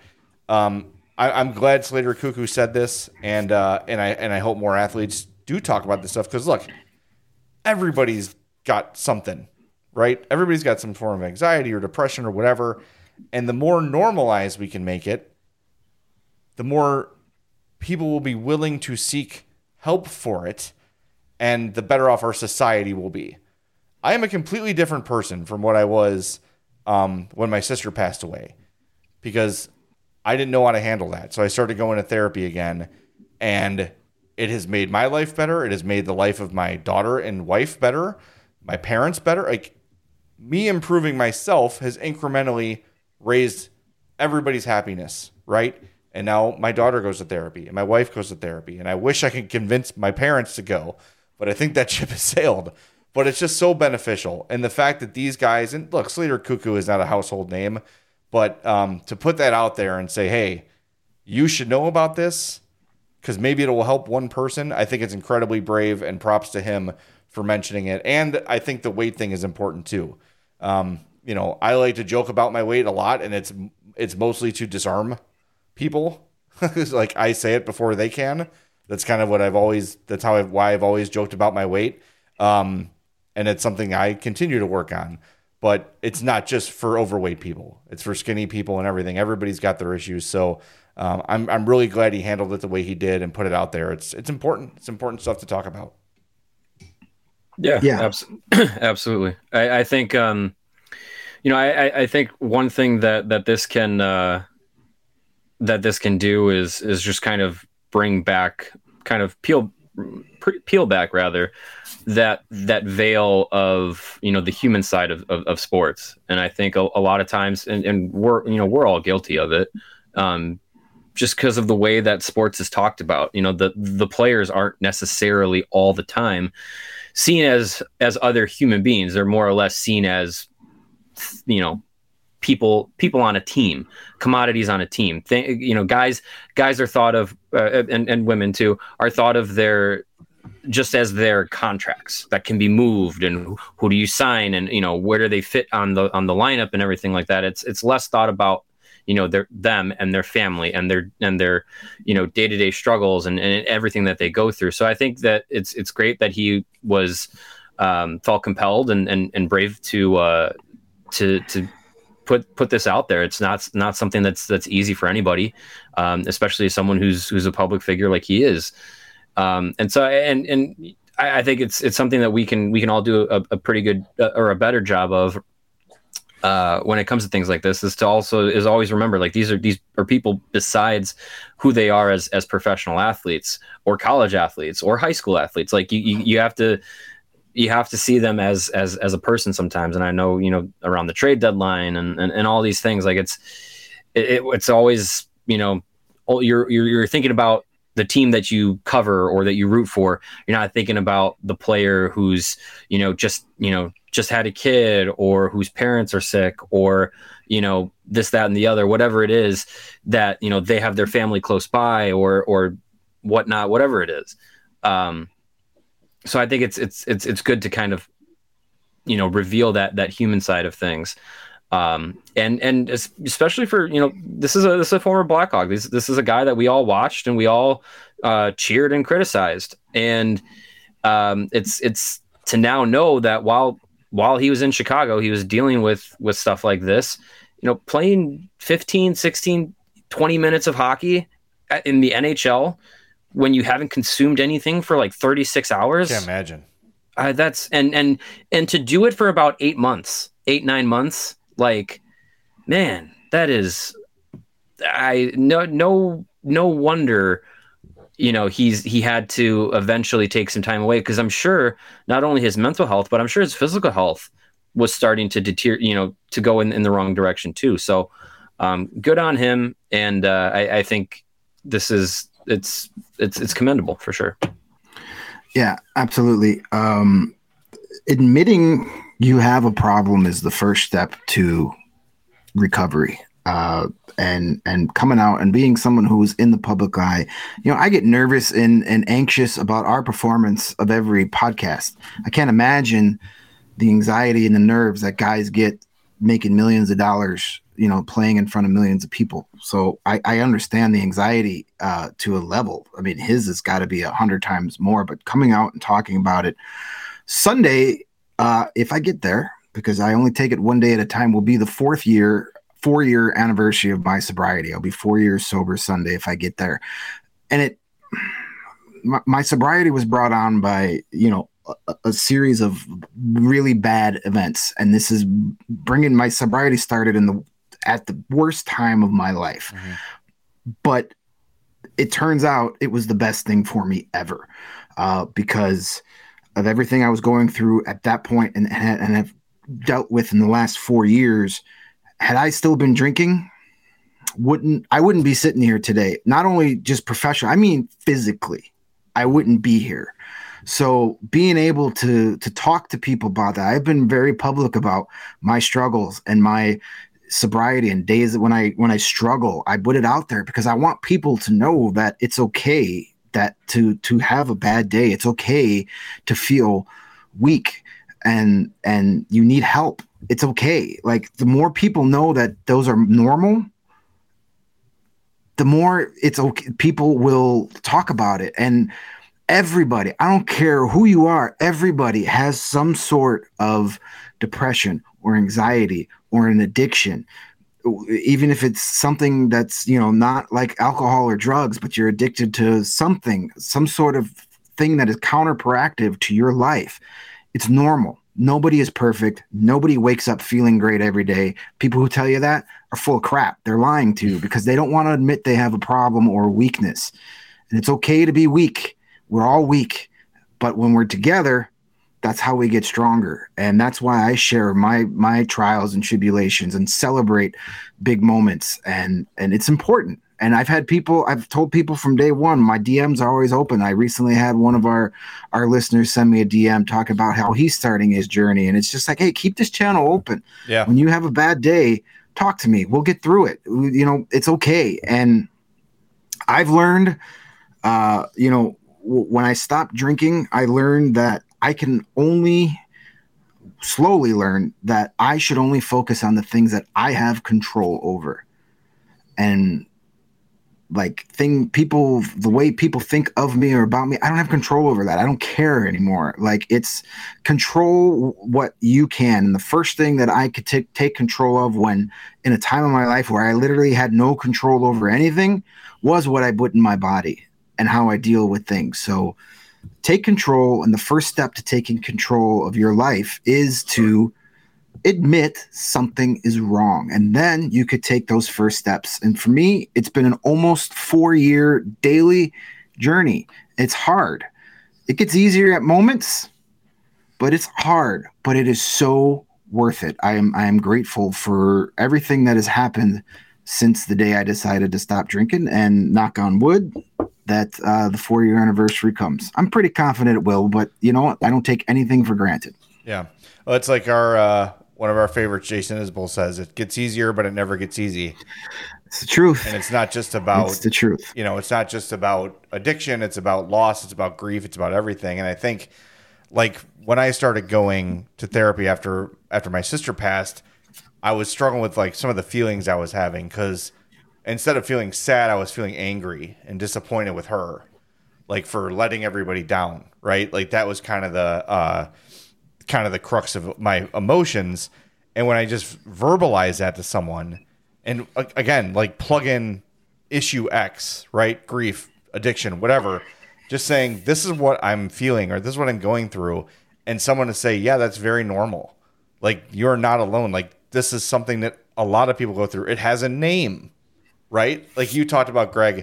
I'm glad Slater Cuckoo said this, and I hope more athletes do talk about this stuff because look, everybody's got something, right? Everybody's got some form of anxiety or depression or whatever, and the more normalized we can make it, the more people will be willing to seek help for it, and the better off our society will be. I am a completely different person from what I was when my sister passed away, because I didn't know how to handle that. So I started going to therapy again, and it has made my life better. It has made the life of my daughter and wife better, my parents better. Like, me improving myself has incrementally raised everybody's happiness, right? And now my daughter goes to therapy and my wife goes to therapy, and I wish I could convince my parents to go, but I think that ship has sailed. But it's just so beneficial. And the fact that these guys, and look, Slater Cuckoo is not a household name, but to put that out there and say, hey, you should know about this because maybe it will help one person, I think it's incredibly brave, and props to him for mentioning it. And I think the weight thing is important too. You know, I like to joke about my weight a lot, and it's mostly to disarm people. Like, I say it before they can. That's kind of what why I've always joked about my weight. And it's something I continue to work on, but it's not just for overweight people. It's for skinny people and everything. Everybody's got their issues. So, I'm really glad he handled it the way he did and put it out there. It's important. It's important stuff to talk about. Yeah. Absolutely. I think, I think one thing that this can do is just kind of bring back, kind of peel back rather, that veil of, the human side of sports. And I think a lot of times, and we're all guilty of it, just because of the way that sports is talked about. The players aren't necessarily all the time seen as other human beings. They're more or less seen as, people on a team, commodities on a team. Guys are thought of, and women too, are thought of just as their contracts that can be moved, and who do you sign, and where do they fit on the lineup and everything like that. It's less thought about them and their family and their day-to-day struggles and everything that they go through. So I think that it's great that he was felt compelled and brave to put this out there. It's not something that's easy for anybody, especially someone who's a public figure like he is. And so I think it's something that we can all do a pretty good or a better job of when it comes to things like this, is always remember, like, these are people besides who they are as professional athletes or college athletes or high school athletes. Like, you have to see them as a person sometimes. And I know, around the trade deadline and all these things, like it's always, you're thinking about the team that you cover or that you root for. You're not thinking about the player who's, just had a kid, or whose parents are sick, or, this, that, and the other, whatever it is that, they have their family close by or whatnot, whatever it is. So I think it's good to kind of, reveal that human side of things. And especially for, this is a former Blackhawk. This is a guy that we all watched and we all cheered and criticized. And it's to now know that while he was in Chicago, he was dealing with stuff like this, playing 15, 16, 20 minutes of hockey in the NHL when you haven't consumed anything for like 36 hours. Can't imagine. That's and to do it for about 8 months, 8-9 months. Like, man, that is, no wonder, he had to eventually take some time away, because I'm sure not only his mental health, but I'm sure his physical health was starting to deteriorate, to go in the wrong direction too. So, good on him. And, I think it's commendable for sure. Yeah, absolutely. Admitting you have a problem is the first step to recovery. And coming out and being someone who's in the public eye, I get nervous and anxious about our performance of every podcast. I can't imagine the anxiety and the nerves that guys get making millions of dollars, playing in front of millions of people. So I understand the anxiety to a level. I mean, his has got to be 100 times more, but coming out and talking about it Sunday, if I get there, because I only take it one day at a time, will be the 4-year anniversary of my sobriety. I'll be 4 years sober Sunday if I get there. And my sobriety was brought on by, a series of really bad events, and this is bringing my sobriety started at the worst time of my life. Mm-hmm. But it turns out it was the best thing for me ever, because of everything I was going through at that point and have dealt with in the last 4 years. Had I still been drinking, I wouldn't be sitting here today. Not only just professionally, I mean physically, I wouldn't be here. So being able to talk to people about that, I've been very public about my struggles and my sobriety and days when I struggle. I put it out there because I want people to know that it's okay that to have a bad day. It's okay to feel weak and you need help. It's okay. Like, the more people know that those are normal, the more it's okay. People will talk about it. And everybody, I don't care who you are, everybody has some sort of depression or anxiety or an addiction, even if it's something that's, not like alcohol or drugs, but you're addicted to something, some sort of thing that is counterproductive to your life. It's normal. Nobody is perfect. Nobody wakes up feeling great every day. People who tell you that are full of crap. They're lying to you because they don't want to admit they have a problem or a weakness. And it's okay to be weak. We're all weak. But when we're together, that's how we get stronger. And that's why I share my trials and tribulations and celebrate big moments. And it's important. And I've told people from day one, my DMs are always open. I recently had one of our listeners send me a DM talking about how he's starting his journey. And it's just like, hey, keep this channel open. Yeah. When you have a bad day, talk to me. We'll get through it. It's okay. And I've learned, when I stopped drinking, I learned that I can only slowly learn that I should only focus on the things that I have control over. And the way people think of me or about me, I don't have control over that. I don't care anymore. Like, it's control what you can. And the first thing that I could take control of when in a time of my life where I literally had no control over anything was what I put in my body and how I deal with things. So take control. And the first step to taking control of your life is to admit something is wrong. And then you could take those first steps. And for me, it's been an almost 4-year daily journey. It's hard. It gets easier at moments, but it's hard, but it is so worth it. I am grateful for everything that has happened since the day I decided to stop drinking, and knock on wood that the 4-year anniversary comes. I'm pretty confident it will, but you know what? I don't take anything for granted. Yeah. Well, it's like our one of our favorites, Jason Isbell, says, it gets easier, but it never gets easy. It's the truth. And it's not just about, it's the truth. It's not just about addiction. It's about loss. It's about grief. It's about everything. And I think, like, when I started going to therapy after my sister passed, I was struggling with like some of the feelings I was having, because instead of feeling sad, I was feeling angry and disappointed with her, like, for letting everybody down. Right. Like, that was kind of the crux of my emotions. And when I just verbalize that to someone, and again, like, plug in issue X, right? Grief, addiction, whatever, just saying, this is what I'm feeling, or this is what I'm going through. And someone to say, yeah, that's very normal. Like, you're not alone. Like, this is something that a lot of people go through. It has a name, right? Like you talked about, Greg,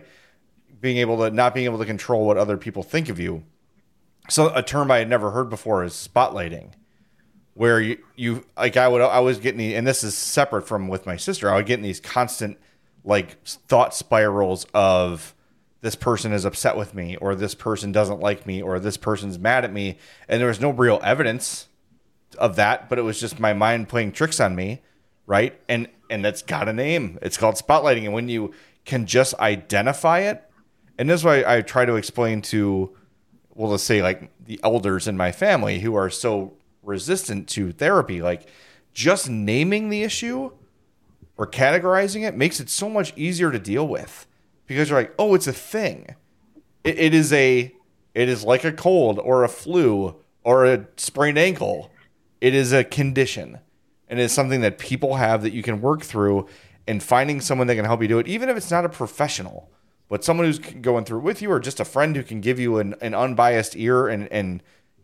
not being able to control what other people think of you. So a term I had never heard before is spotlighting, where you like, I was getting and this is separate from with my sister, I would get in these constant like thought spirals of, this person is upset with me, or this person doesn't like me, or this person's mad at me. And there was no real evidence of that, but it was just my mind playing tricks on me. Right. And that's got a name. It's called spotlighting. And when you can just identify it, and this is why I try to explain to, well, let's say like the elders in my family who are so resistant to therapy, like, just naming the issue or categorizing it makes it so much easier to deal with, because you're like, oh, it's a thing. It is like a cold or a flu or a sprained ankle. It is a condition, and it's something that people have that you can work through, and finding someone that can help you do it, even if it's not a professional, but someone who's going through with you, or just a friend who can give you an unbiased ear and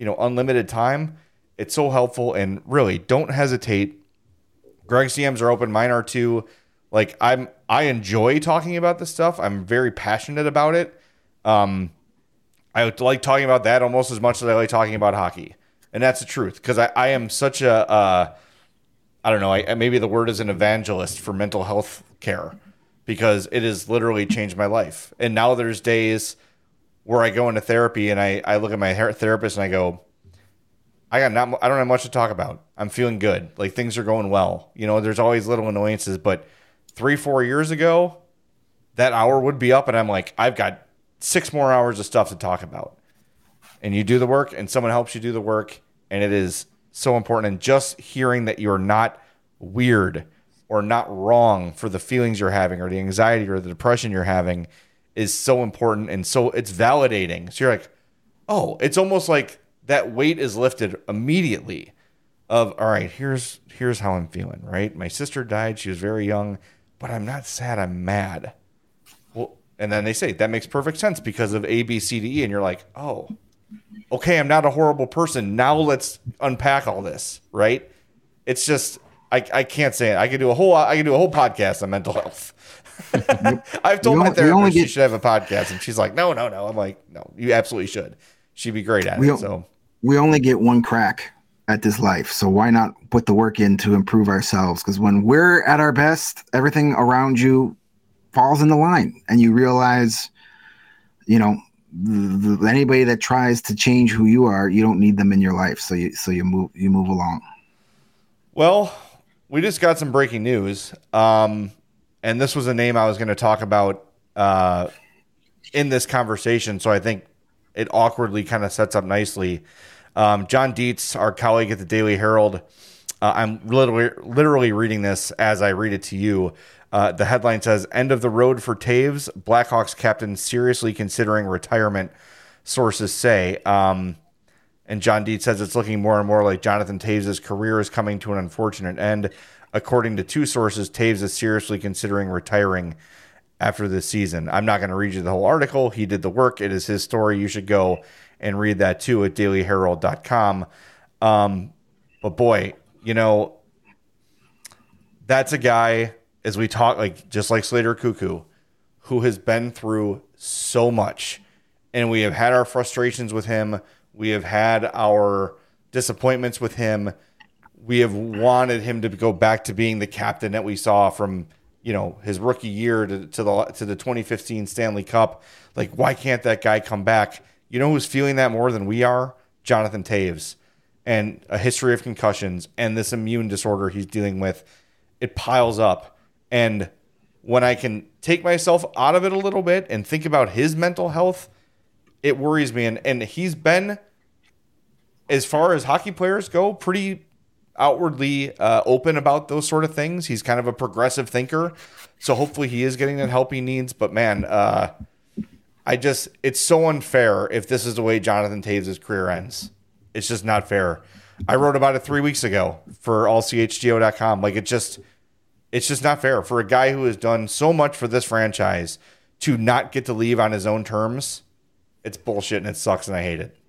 unlimited time, it's so helpful. And really, don't hesitate. Greg's DMs are open. Mine are too. Like, I enjoy talking about this stuff. I'm very passionate about it. I like talking about that almost as much as I like talking about hockey. And that's the truth, because I am such a, I don't know, maybe the word is an evangelist for mental health care, because it has literally changed my life. And now there's days where I go into therapy and I look at my therapist and I go, I don't have much to talk about. I'm feeling good. Like, things are going well. There's always little annoyances, but 3-4 years ago, that hour would be up and I'm like, I've got 6 more hours of stuff to talk about. And you do the work and someone helps you do the work, and it is so important. And just hearing that you're not weird or not wrong for the feelings you're having or the anxiety or the depression you're having is so important. And so it's validating. So you're like, oh, it's almost like that weight is lifted immediately of, all right, here's how I'm feeling, right? My sister died. She was very young, but I'm not sad. I'm mad. Well, and then they say that makes perfect sense because of A, B, C, D, E. And you're like, oh, okay, I'm not a horrible person. Now let's unpack all this, right? It's just, I can't say it. I could do a whole podcast on mental health. I've told my therapist she should have a podcast, and she's like, no. I'm like, no, you absolutely should. She'd be great at it. So we only get one crack at this life, so why not put the work in to improve ourselves? Because when we're at our best, everything around you falls into line, and you realize, anybody that tries to change who you are, you don't need them in your life. So you move along. Well, we just got some breaking news. And this was a name I was going to talk about in this conversation. So I think it awkwardly kind of sets up nicely. John Dietz, our colleague at the Daily Herald, I'm literally reading this as I read it to you. The headline says, "End of the road for Toews. Blackhawks captain seriously considering retirement," sources say. And John Dietz says it's looking more and more like Jonathan Toews' career is coming to an unfortunate end. According to 2 sources, Toews is seriously considering retiring after this season. I'm not going to read you the whole article. He did the work. It is his story. You should go and read that too at dailyherald.com. But boy, that's a guy, as we talk, just like Slater Cuckoo, who has been through so much. And we have had our frustrations with him. We have had our disappointments with him. We have wanted him to go back to being the captain that we saw from, his rookie year to the 2015 Stanley Cup. Like, why can't that guy come back? You know who's feeling that more than we are? Jonathan Toews. And a history of concussions and this immune disorder he's dealing with. It piles up. And when I can take myself out of it a little bit and think about his mental health, it worries me. And he's been, as far as hockey players go, pretty outwardly open about those sort of things. He's kind of a progressive thinker. So hopefully he is getting that help he needs. But man, it's so unfair if this is the way Jonathan Toews' career ends. It's just not fair. I wrote about it 3 weeks ago for allchgo.com. Like, it's just not fair for a guy who has done so much for this franchise to not get to leave on his own terms. It's bullshit and it sucks and I hate it.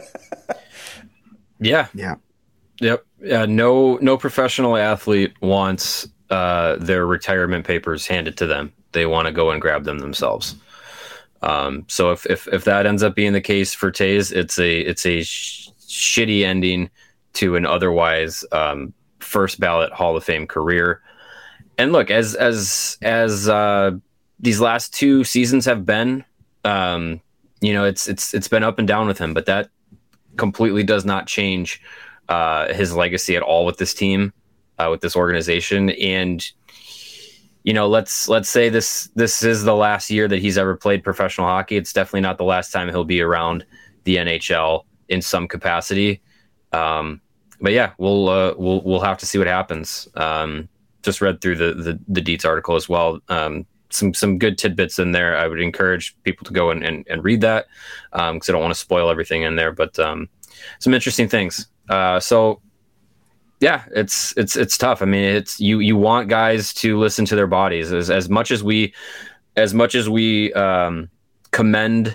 Yeah. Yep. No professional athlete wants their retirement papers handed to them. They want to go and grab them themselves. So if that ends up being the case for Toews, it's a shitty ending to an otherwise first ballot Hall of Fame career. And look, as these last 2 seasons have been, it's been up and down with him, but that completely does not change his legacy at all with this team, with this organization. And let's say this is the last year that he's ever played professional hockey. It's definitely not the last time he'll be around the NHL in some capacity. But yeah, we'll have to see what happens. Just read through the Dietz article as well. Some good tidbits in there. I would encourage people to go and read that because I don't want to spoil everything in there. But some interesting things. So yeah, it's tough. I mean, it's you want guys to listen to their bodies as much as we commend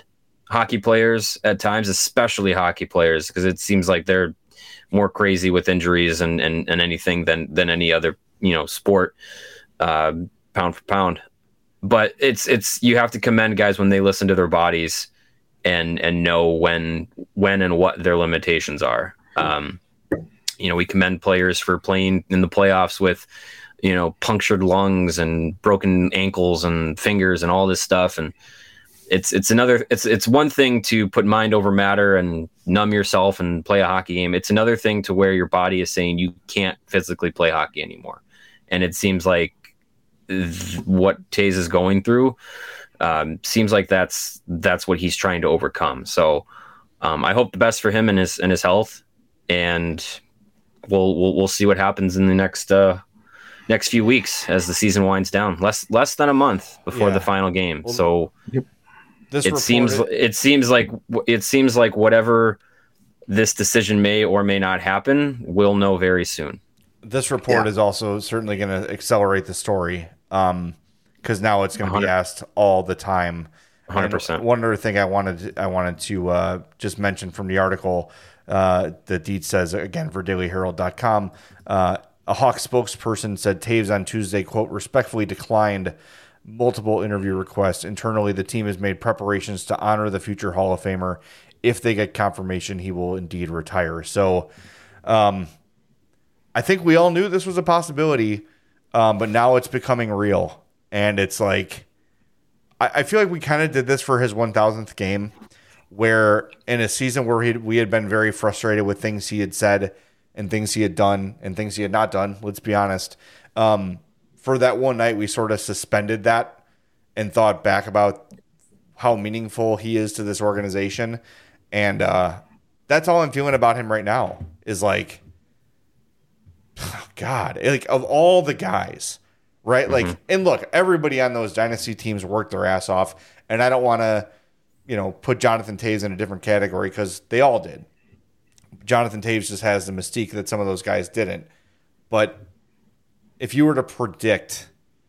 hockey players at times, especially hockey players, because it seems like they're more crazy with injuries and anything than any other, sport, pound for pound. But it's you have to commend guys when they listen to their bodies and know when and what their limitations are. We commend players for playing in the playoffs with, punctured lungs and broken ankles and fingers and all this stuff. And it's one thing to put mind over matter and numb yourself and play a hockey game. It's another thing to where your body is saying you can't physically play hockey anymore. And it seems like what Toews is going through seems like that's what he's trying to overcome. So I hope the best for him and his health, and we'll see what happens in the next few weeks as the season winds down. Less than a month before the final game. Well, so it seems like whatever this decision may or may not happen, we'll know very soon. This report is also certainly going to accelerate the story, because now it's going to be asked all the time. 100%. One other thing I wanted to just mention from the article that Deetz says, again, for dailyherald.com, a Hawks spokesperson said Toews on Tuesday, quote, respectfully declined multiple interview requests. Internally, the team has made preparations to honor the future Hall of Famer. If they get confirmation, he will indeed retire. So I think we all knew this was a possibility, but now it's becoming real. And it's like, I feel like we kind of did this for his 1,000th game, where in a season where we had been very frustrated with things he had said and things he had done and things he had not done, let's be honest. For that one night, we sort of suspended that and thought back about how meaningful he is to this organization. And that's all I'm feeling about him right now is like, oh God, like of all the guys, right? Mm-hmm. Like, and look, everybody on those dynasty teams worked their ass off. And I don't want to, put Jonathan Toews in a different category because they all did. Jonathan Toews just has the mystique that some of those guys didn't. But if you were to predict,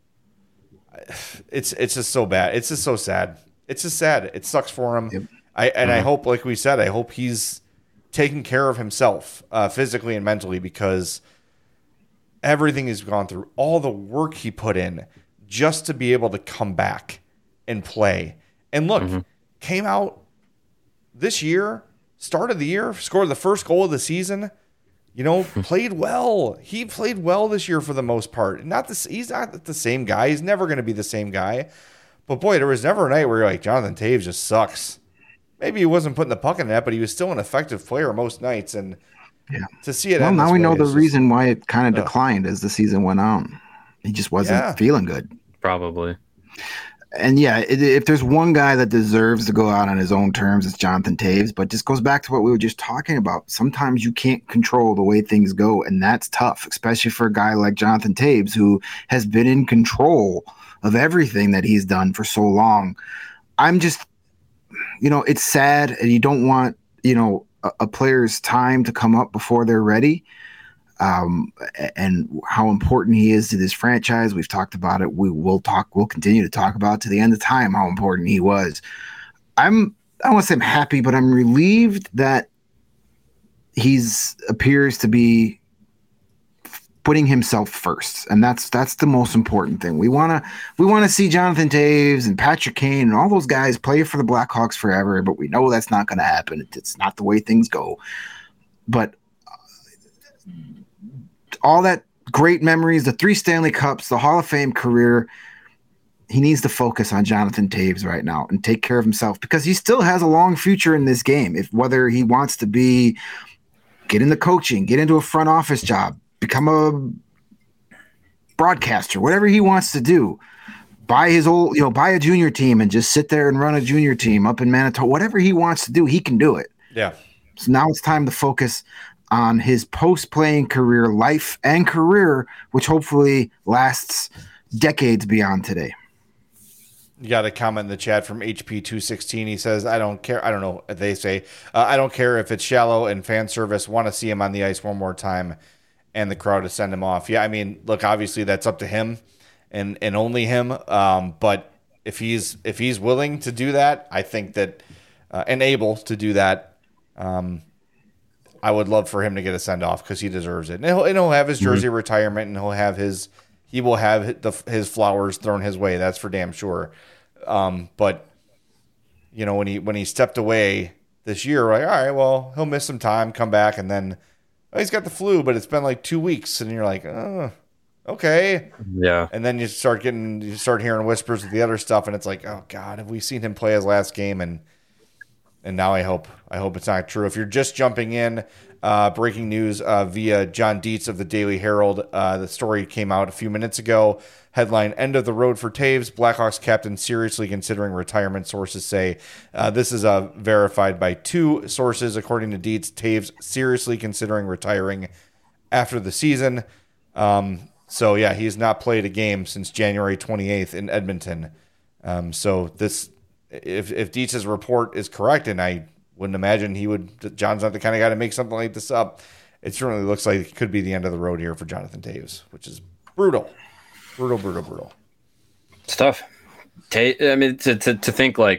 it's just so bad. It's just so sad. It's just sad. It sucks for him. Yep. I hope, like we said, I hope he's taking care of himself physically and mentally, because everything he's gone through, all the work he put in just to be able to come back and play. And look, came out this year, start of the year, scored the first goal of the season, played well. He played well this year for the most part. He's not the same guy. He's never going to be the same guy. But boy, there was never a night where you're like, Jonathan Toews just sucks. Maybe he wasn't putting the puck in the net, but he was still an effective player most nights. And to see it. Well, now we know the reason why it kind of declined as the season went on. He just wasn't feeling good. Probably. And if there's one guy that deserves to go out on his own terms, it's Jonathan Toews. But this goes back to what we were just talking about. Sometimes you can't control the way things go, and that's tough, especially for a guy like Jonathan Toews, who has been in control of everything that he's done for so long. I'm just, it's sad, and you don't want, a player's time to come up before they're ready. And how important he is to this franchise. We've talked about it. We'll continue to talk about to the end of time how important he was. I don't want to say I'm happy, but I'm relieved that appears to be putting himself first. And that's the most important thing. We want to see Jonathan Toews and Patrick Kane and all those guys play for the Blackhawks forever, but we know that's not going to happen. It's not the way things go. But all that great memories, the 3 Stanley Cups, the Hall of Fame career, he needs to focus on Jonathan Toews right now and take care of himself, because he still has a long future in this game. Whether he wants to get into coaching, get into a front office job, become a broadcaster, whatever he wants to do, buy a junior team and just sit there and run a junior team up in Manitoba, whatever he wants to do, he can do it. Yeah. So now it's time to focus on his post-playing career, life and career, which hopefully lasts decades beyond today. You got a comment in the chat from HP216. He says, I don't care. I don't know if they say, I don't care if it's shallow and fan service. Want to see him on the ice one more time and the crowd to send him off. Yeah, I mean, look, obviously that's up to him and only him. But if he's willing to do that, I think that and able to do that, I would love for him to get a send off because he deserves it. And he'll have his jersey retirement, and he will have his flowers thrown his way. That's for damn sure. But when he stepped away this year, like, all right, well, he'll miss some time, come back, and then he's got the flu, but it's been like 2 weeks, and you're like, oh, okay, yeah. And then you start hearing whispers of the other stuff, and it's like, oh God, have we seen him play his last game? And now I hope it's not true. If you're just jumping in, breaking news via John Dietz of the Daily Herald. The story came out a few minutes ago. Headline, end of the road for Toews. Blackhawks captain seriously considering retirement, sources say. This is verified by 2 sources. According to Dietz, Toews seriously considering retiring after the season. So, yeah, he's not played a game since January 28th in Edmonton. So this, if Dietz's report is correct, and I wouldn't imagine John's not the kind of guy to make something like this up, it certainly looks like it could be the end of the road here for Jonathan Toews, which is brutal. Brutal. It's tough. I mean, to think like,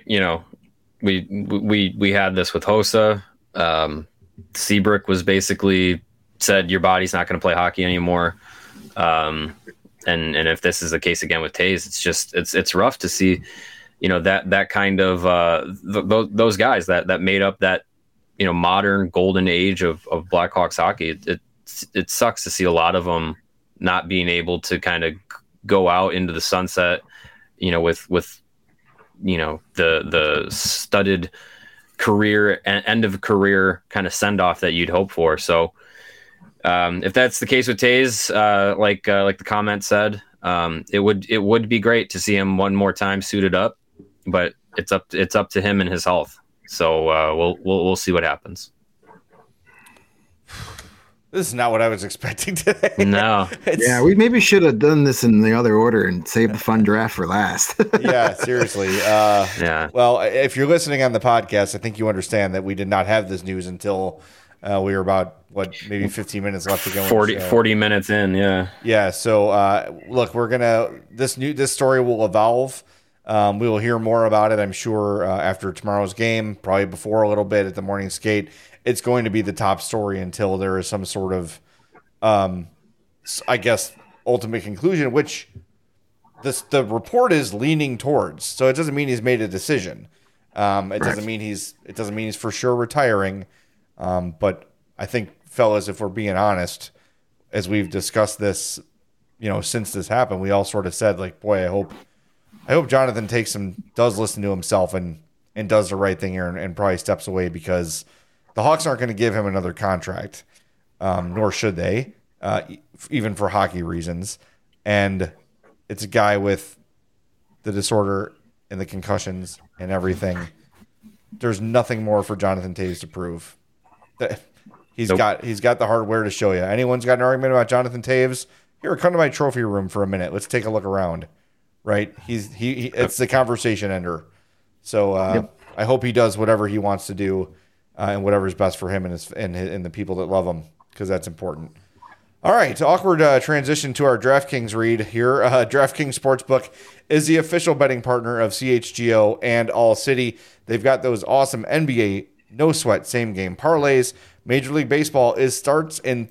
we had this with Hossa. Seabrook was basically said your body's not going to play hockey anymore. And if this is the case again with Toews, it's just it's rough to see, that kind of those guys that made up that modern golden age of Blackhawks hockey. It sucks to see a lot of them not being able to kind of go out into the sunset, with the studded career and end of career kind of send off that you'd hope for. So if that's the case with Toews, like the comment said, it would be great to see him one more time suited up, but it's up to him and his health. So we'll see what happens. This is not what I was expecting today. No. Yeah, we maybe should have done this in the other order and saved the fun draft for last. Yeah, seriously. Yeah. Well, if you're listening on the podcast, I think you understand that we did not have this news until we were about, maybe 15 minutes left to go. 40 minutes in, yeah. Yeah, so look, this story will evolve. We will hear more about it, I'm sure, after tomorrow's game, probably before a little bit at the morning skate. It's going to be the top story until there is some sort of, I guess, ultimate conclusion, which the report is leaning towards. So it doesn't mean he's made a decision. It doesn't mean he's for sure retiring. But I think, fellas, if we're being honest, as we've discussed this, since this happened, we all sort of said, like, boy, I hope Jonathan does listen to himself and does the right thing here and probably steps away, because the Hawks aren't going to give him another contract, nor should they, even for hockey reasons. And it's a guy with the disorder and the concussions and everything. There's nothing more for Jonathan Toews to prove. He's got the hardware to show you. Anyone's got an argument about Jonathan Toews? Here, come to my trophy room for a minute. Let's take a look around. Right? It's the conversation ender. So I hope he does whatever he wants to do. And whatever's best for him and the people that love him, because that's important. All right, awkward transition to our DraftKings read here. DraftKings Sportsbook is the official betting partner of CHGO and All City. They've got those awesome NBA no-sweat same-game parlays. Major League Baseball starts in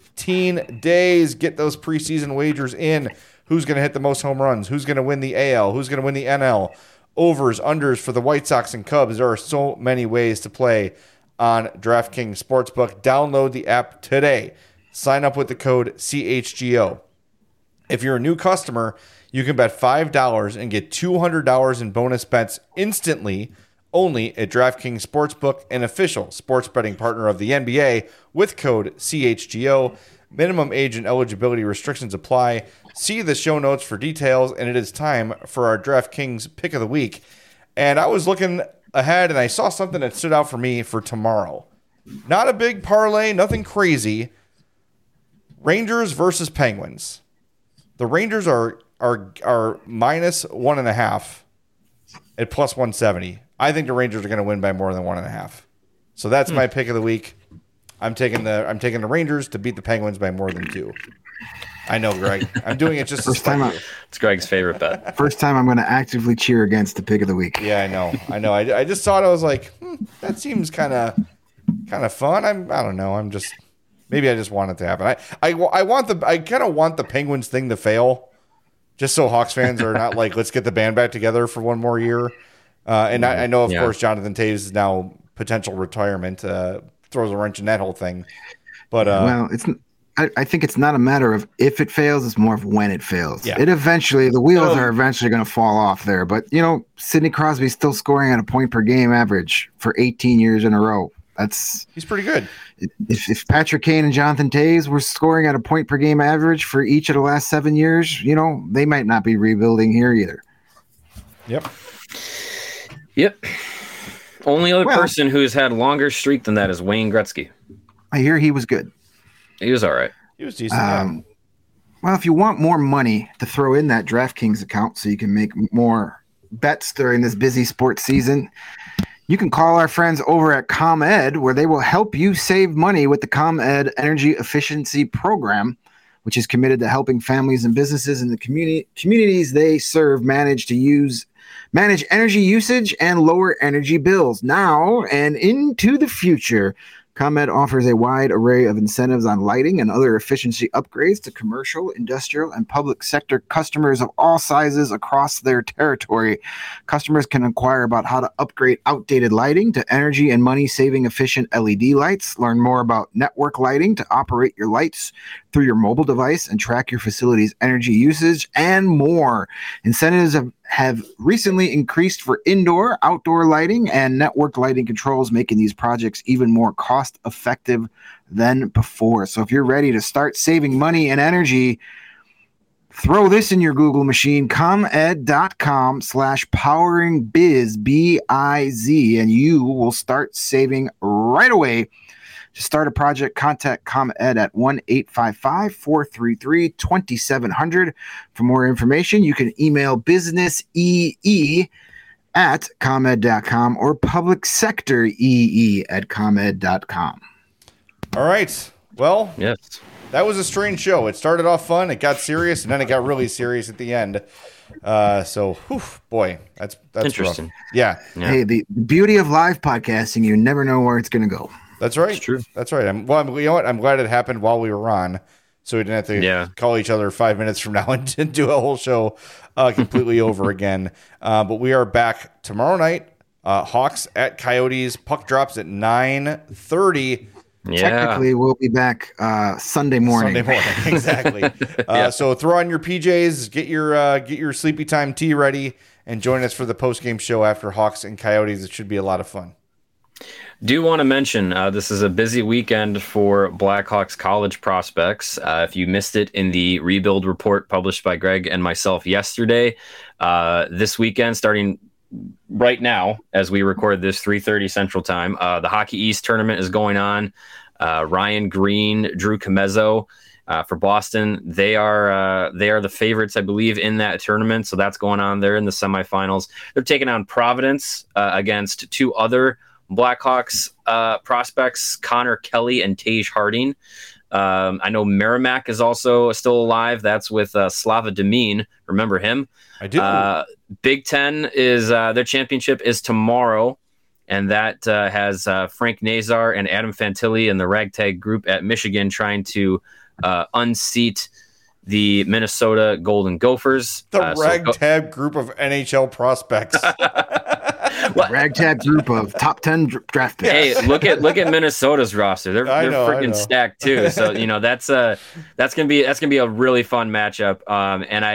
13 days. Get those preseason wagers in. Who's going to hit the most home runs? Who's going to win the AL? Who's going to win the NL? Overs, unders for the White Sox and Cubs. There are so many ways to play on DraftKings Sportsbook. Download the app today. Sign up with the code CHGO. If you're a new customer, you can bet $5 and get $200 in bonus bets instantly, only at DraftKings Sportsbook, an official sports betting partner of the NBA, with code CHGO. Minimum age and eligibility restrictions apply. See the show notes for details, and it is time for our DraftKings pick of the week. And I was looking ahead, and I saw something that stood out for me for tomorrow. Not a big parlay, nothing crazy. Rangers versus Penguins. The Rangers are minus 1.5 at plus 170. I think the Rangers are going to win by more than 1.5. So that's my pick of the week. I'm taking the Rangers to beat the Penguins by more than 2. I know, Greg. I'm doing it just first time. It's Greg's favorite bet. First time I'm going to actively cheer against the pick of the week. Yeah, I know. I just thought, I was like, that seems kind of fun. I don't know. Maybe I just want it to happen. I kind of want the Penguins thing to fail, just so Hawks fans are not like, let's get the band back together for one more year. And I know, of course, Jonathan Toews is now potential retirement, throws a wrench in that whole thing. But well, I think it's not a matter of if it fails; it's more of when it fails. Yeah. The wheels are eventually going to fall off there. But Sidney Crosby's still scoring at a point per game average for 18 years in a row. He's pretty good. If Patrick Kane and Jonathan Toews were scoring at a point per game average for each of the last 7 years, they might not be rebuilding here either. Yep. Only other person who's had longer streak than that is Wayne Gretzky. I hear he was good. He was all right. He was decent. Well, if you want more money to throw in that DraftKings account so you can make more bets during this busy sports season, you can call our friends over at ComEd, where they will help you save money with the ComEd Energy Efficiency Program, which is committed to helping families and businesses in the communities they serve manage energy usage and lower energy bills now and into the future. ComEd offers a wide array of incentives on lighting and other efficiency upgrades to commercial, industrial, and public sector customers of all sizes across their territory. Customers can inquire about how to upgrade outdated lighting to energy and money-saving efficient LED lights, learn more about network lighting to operate your lights through your mobile device and track your facility's energy usage, and more. Incentives have recently increased for indoor, outdoor lighting, and network lighting controls, making these projects even more cost-effective than before. So if you're ready to start saving money and energy, throw this in your Google machine, comed.com/poweringbiz, B-I-Z, and you will start saving right away. To start a project, contact ComEd at 1-855-433-2700. For more information, you can email businessee@comed.com or publicsectoree@comed.com. All right. Well, yes, that was a strange show. It started off fun, it got serious, and then it got really serious at the end. So, boy, that's interesting. Rough. Yeah. Hey, the beauty of live podcasting, you never know where it's going to go. That's right. It's true. That's right. You know what? I'm glad it happened while we were on, so we didn't have to call each other 5 minutes from now and do a whole show completely over again. But we are back tomorrow night. Hawks at Coyotes. Puck drops at 9:30. Yeah. Technically, we'll be back Sunday morning. Exactly. So throw on your PJs, get your sleepy time tea ready, and join us for the post-game show after Hawks and Coyotes. It should be a lot of fun. Do want to mention this is a busy weekend for Blackhawks college prospects. If you missed it in the rebuild report published by Greg and myself yesterday, this weekend, starting right now as we record this, 3:30 Central Time, the Hockey East tournament is going on. Ryan Green, Drew Comezzo for Boston, they are the favorites, I believe, in that tournament. So that's going on. They're in the semifinals. They're taking on Providence against two other Blackhawks prospects, Connor Kelly and Tage Harding. I know Merrimack is also still alive. That's with Slava Demine. Remember him? I do. Big Ten is their championship is tomorrow, and that has Frank Nazar and Adam Fantilli and the ragtag group at Michigan trying to unseat the Minnesota Golden Gophers. The ragtag group of NHL prospects. Ragtag group of top 10 draft picks. Hey, look at Minnesota's roster. They're freaking stacked too. So that's gonna be a really fun matchup. And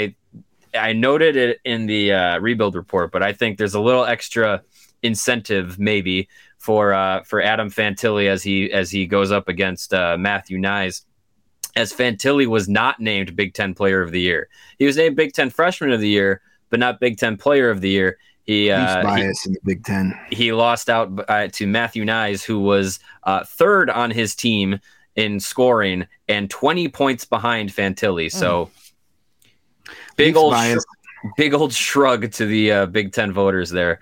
I noted it in the rebuild report, but I think there's a little extra incentive maybe for Adam Fantilli as he goes up against Matthew Knies, as Fantilli was not named Big Ten Player of the Year. He was named Big Ten Freshman of the Year, but not Big Ten Player of the Year. He's biased in the Big Ten. He lost out to Matthew Knies, who was third on his team in scoring and 20 points behind Fantilli. So big old shrug to the Big Ten voters there.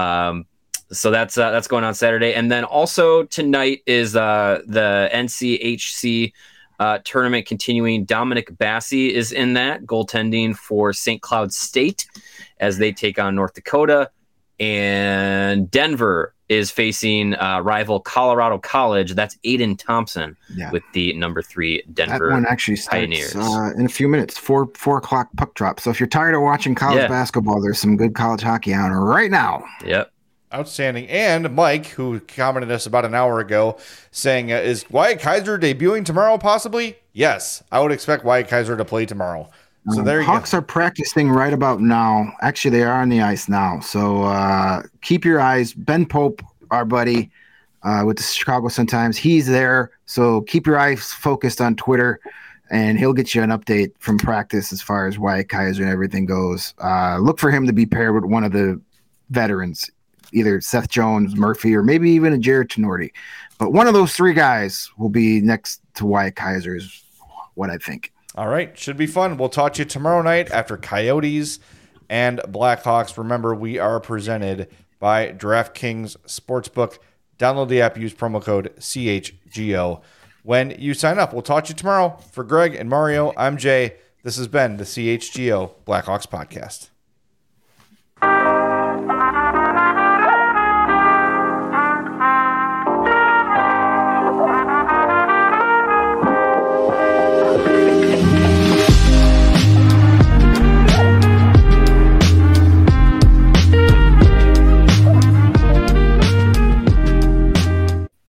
So that's going on Saturday, and then also tonight is the NCHC tournament continuing. Dominic Bassi is in that, goaltending for St. Cloud State as they take on North Dakota. And Denver is facing rival Colorado College. That's Aiden Thompson with the number 3 Denver That one actually starts in a few minutes, 4 o'clock puck drop. So if you're tired of watching college basketball, there's some good college hockey on right now. Yep. Outstanding. And Mike, who commented us about an hour ago, saying, is Wyatt Kaiser debuting tomorrow possibly? Yes, I would expect Wyatt Kaiser to play tomorrow. So there you go. Hawks are practicing right about now. Actually, they are on the ice now. So keep your eyes. Ben Pope, our buddy with the Chicago Sun-Times, he's there. So keep your eyes focused on Twitter, and he'll get you an update from practice as far as Wyatt Kaiser and everything goes. Look for him to be paired with one of the veterans, either Seth Jones, Murphy, or maybe even a Jared Tenorti. But one of those 3 guys will be next to Wyatt Kaiser is what I think. All right. Should be fun. We'll talk to you tomorrow night after Coyotes and Blackhawks. Remember, we are presented by DraftKings Sportsbook. Download the app. Use promo code CHGO when you sign up. We'll talk to you tomorrow. For Greg and Mario, I'm Jay. This has been the CHGO Blackhawks Podcast.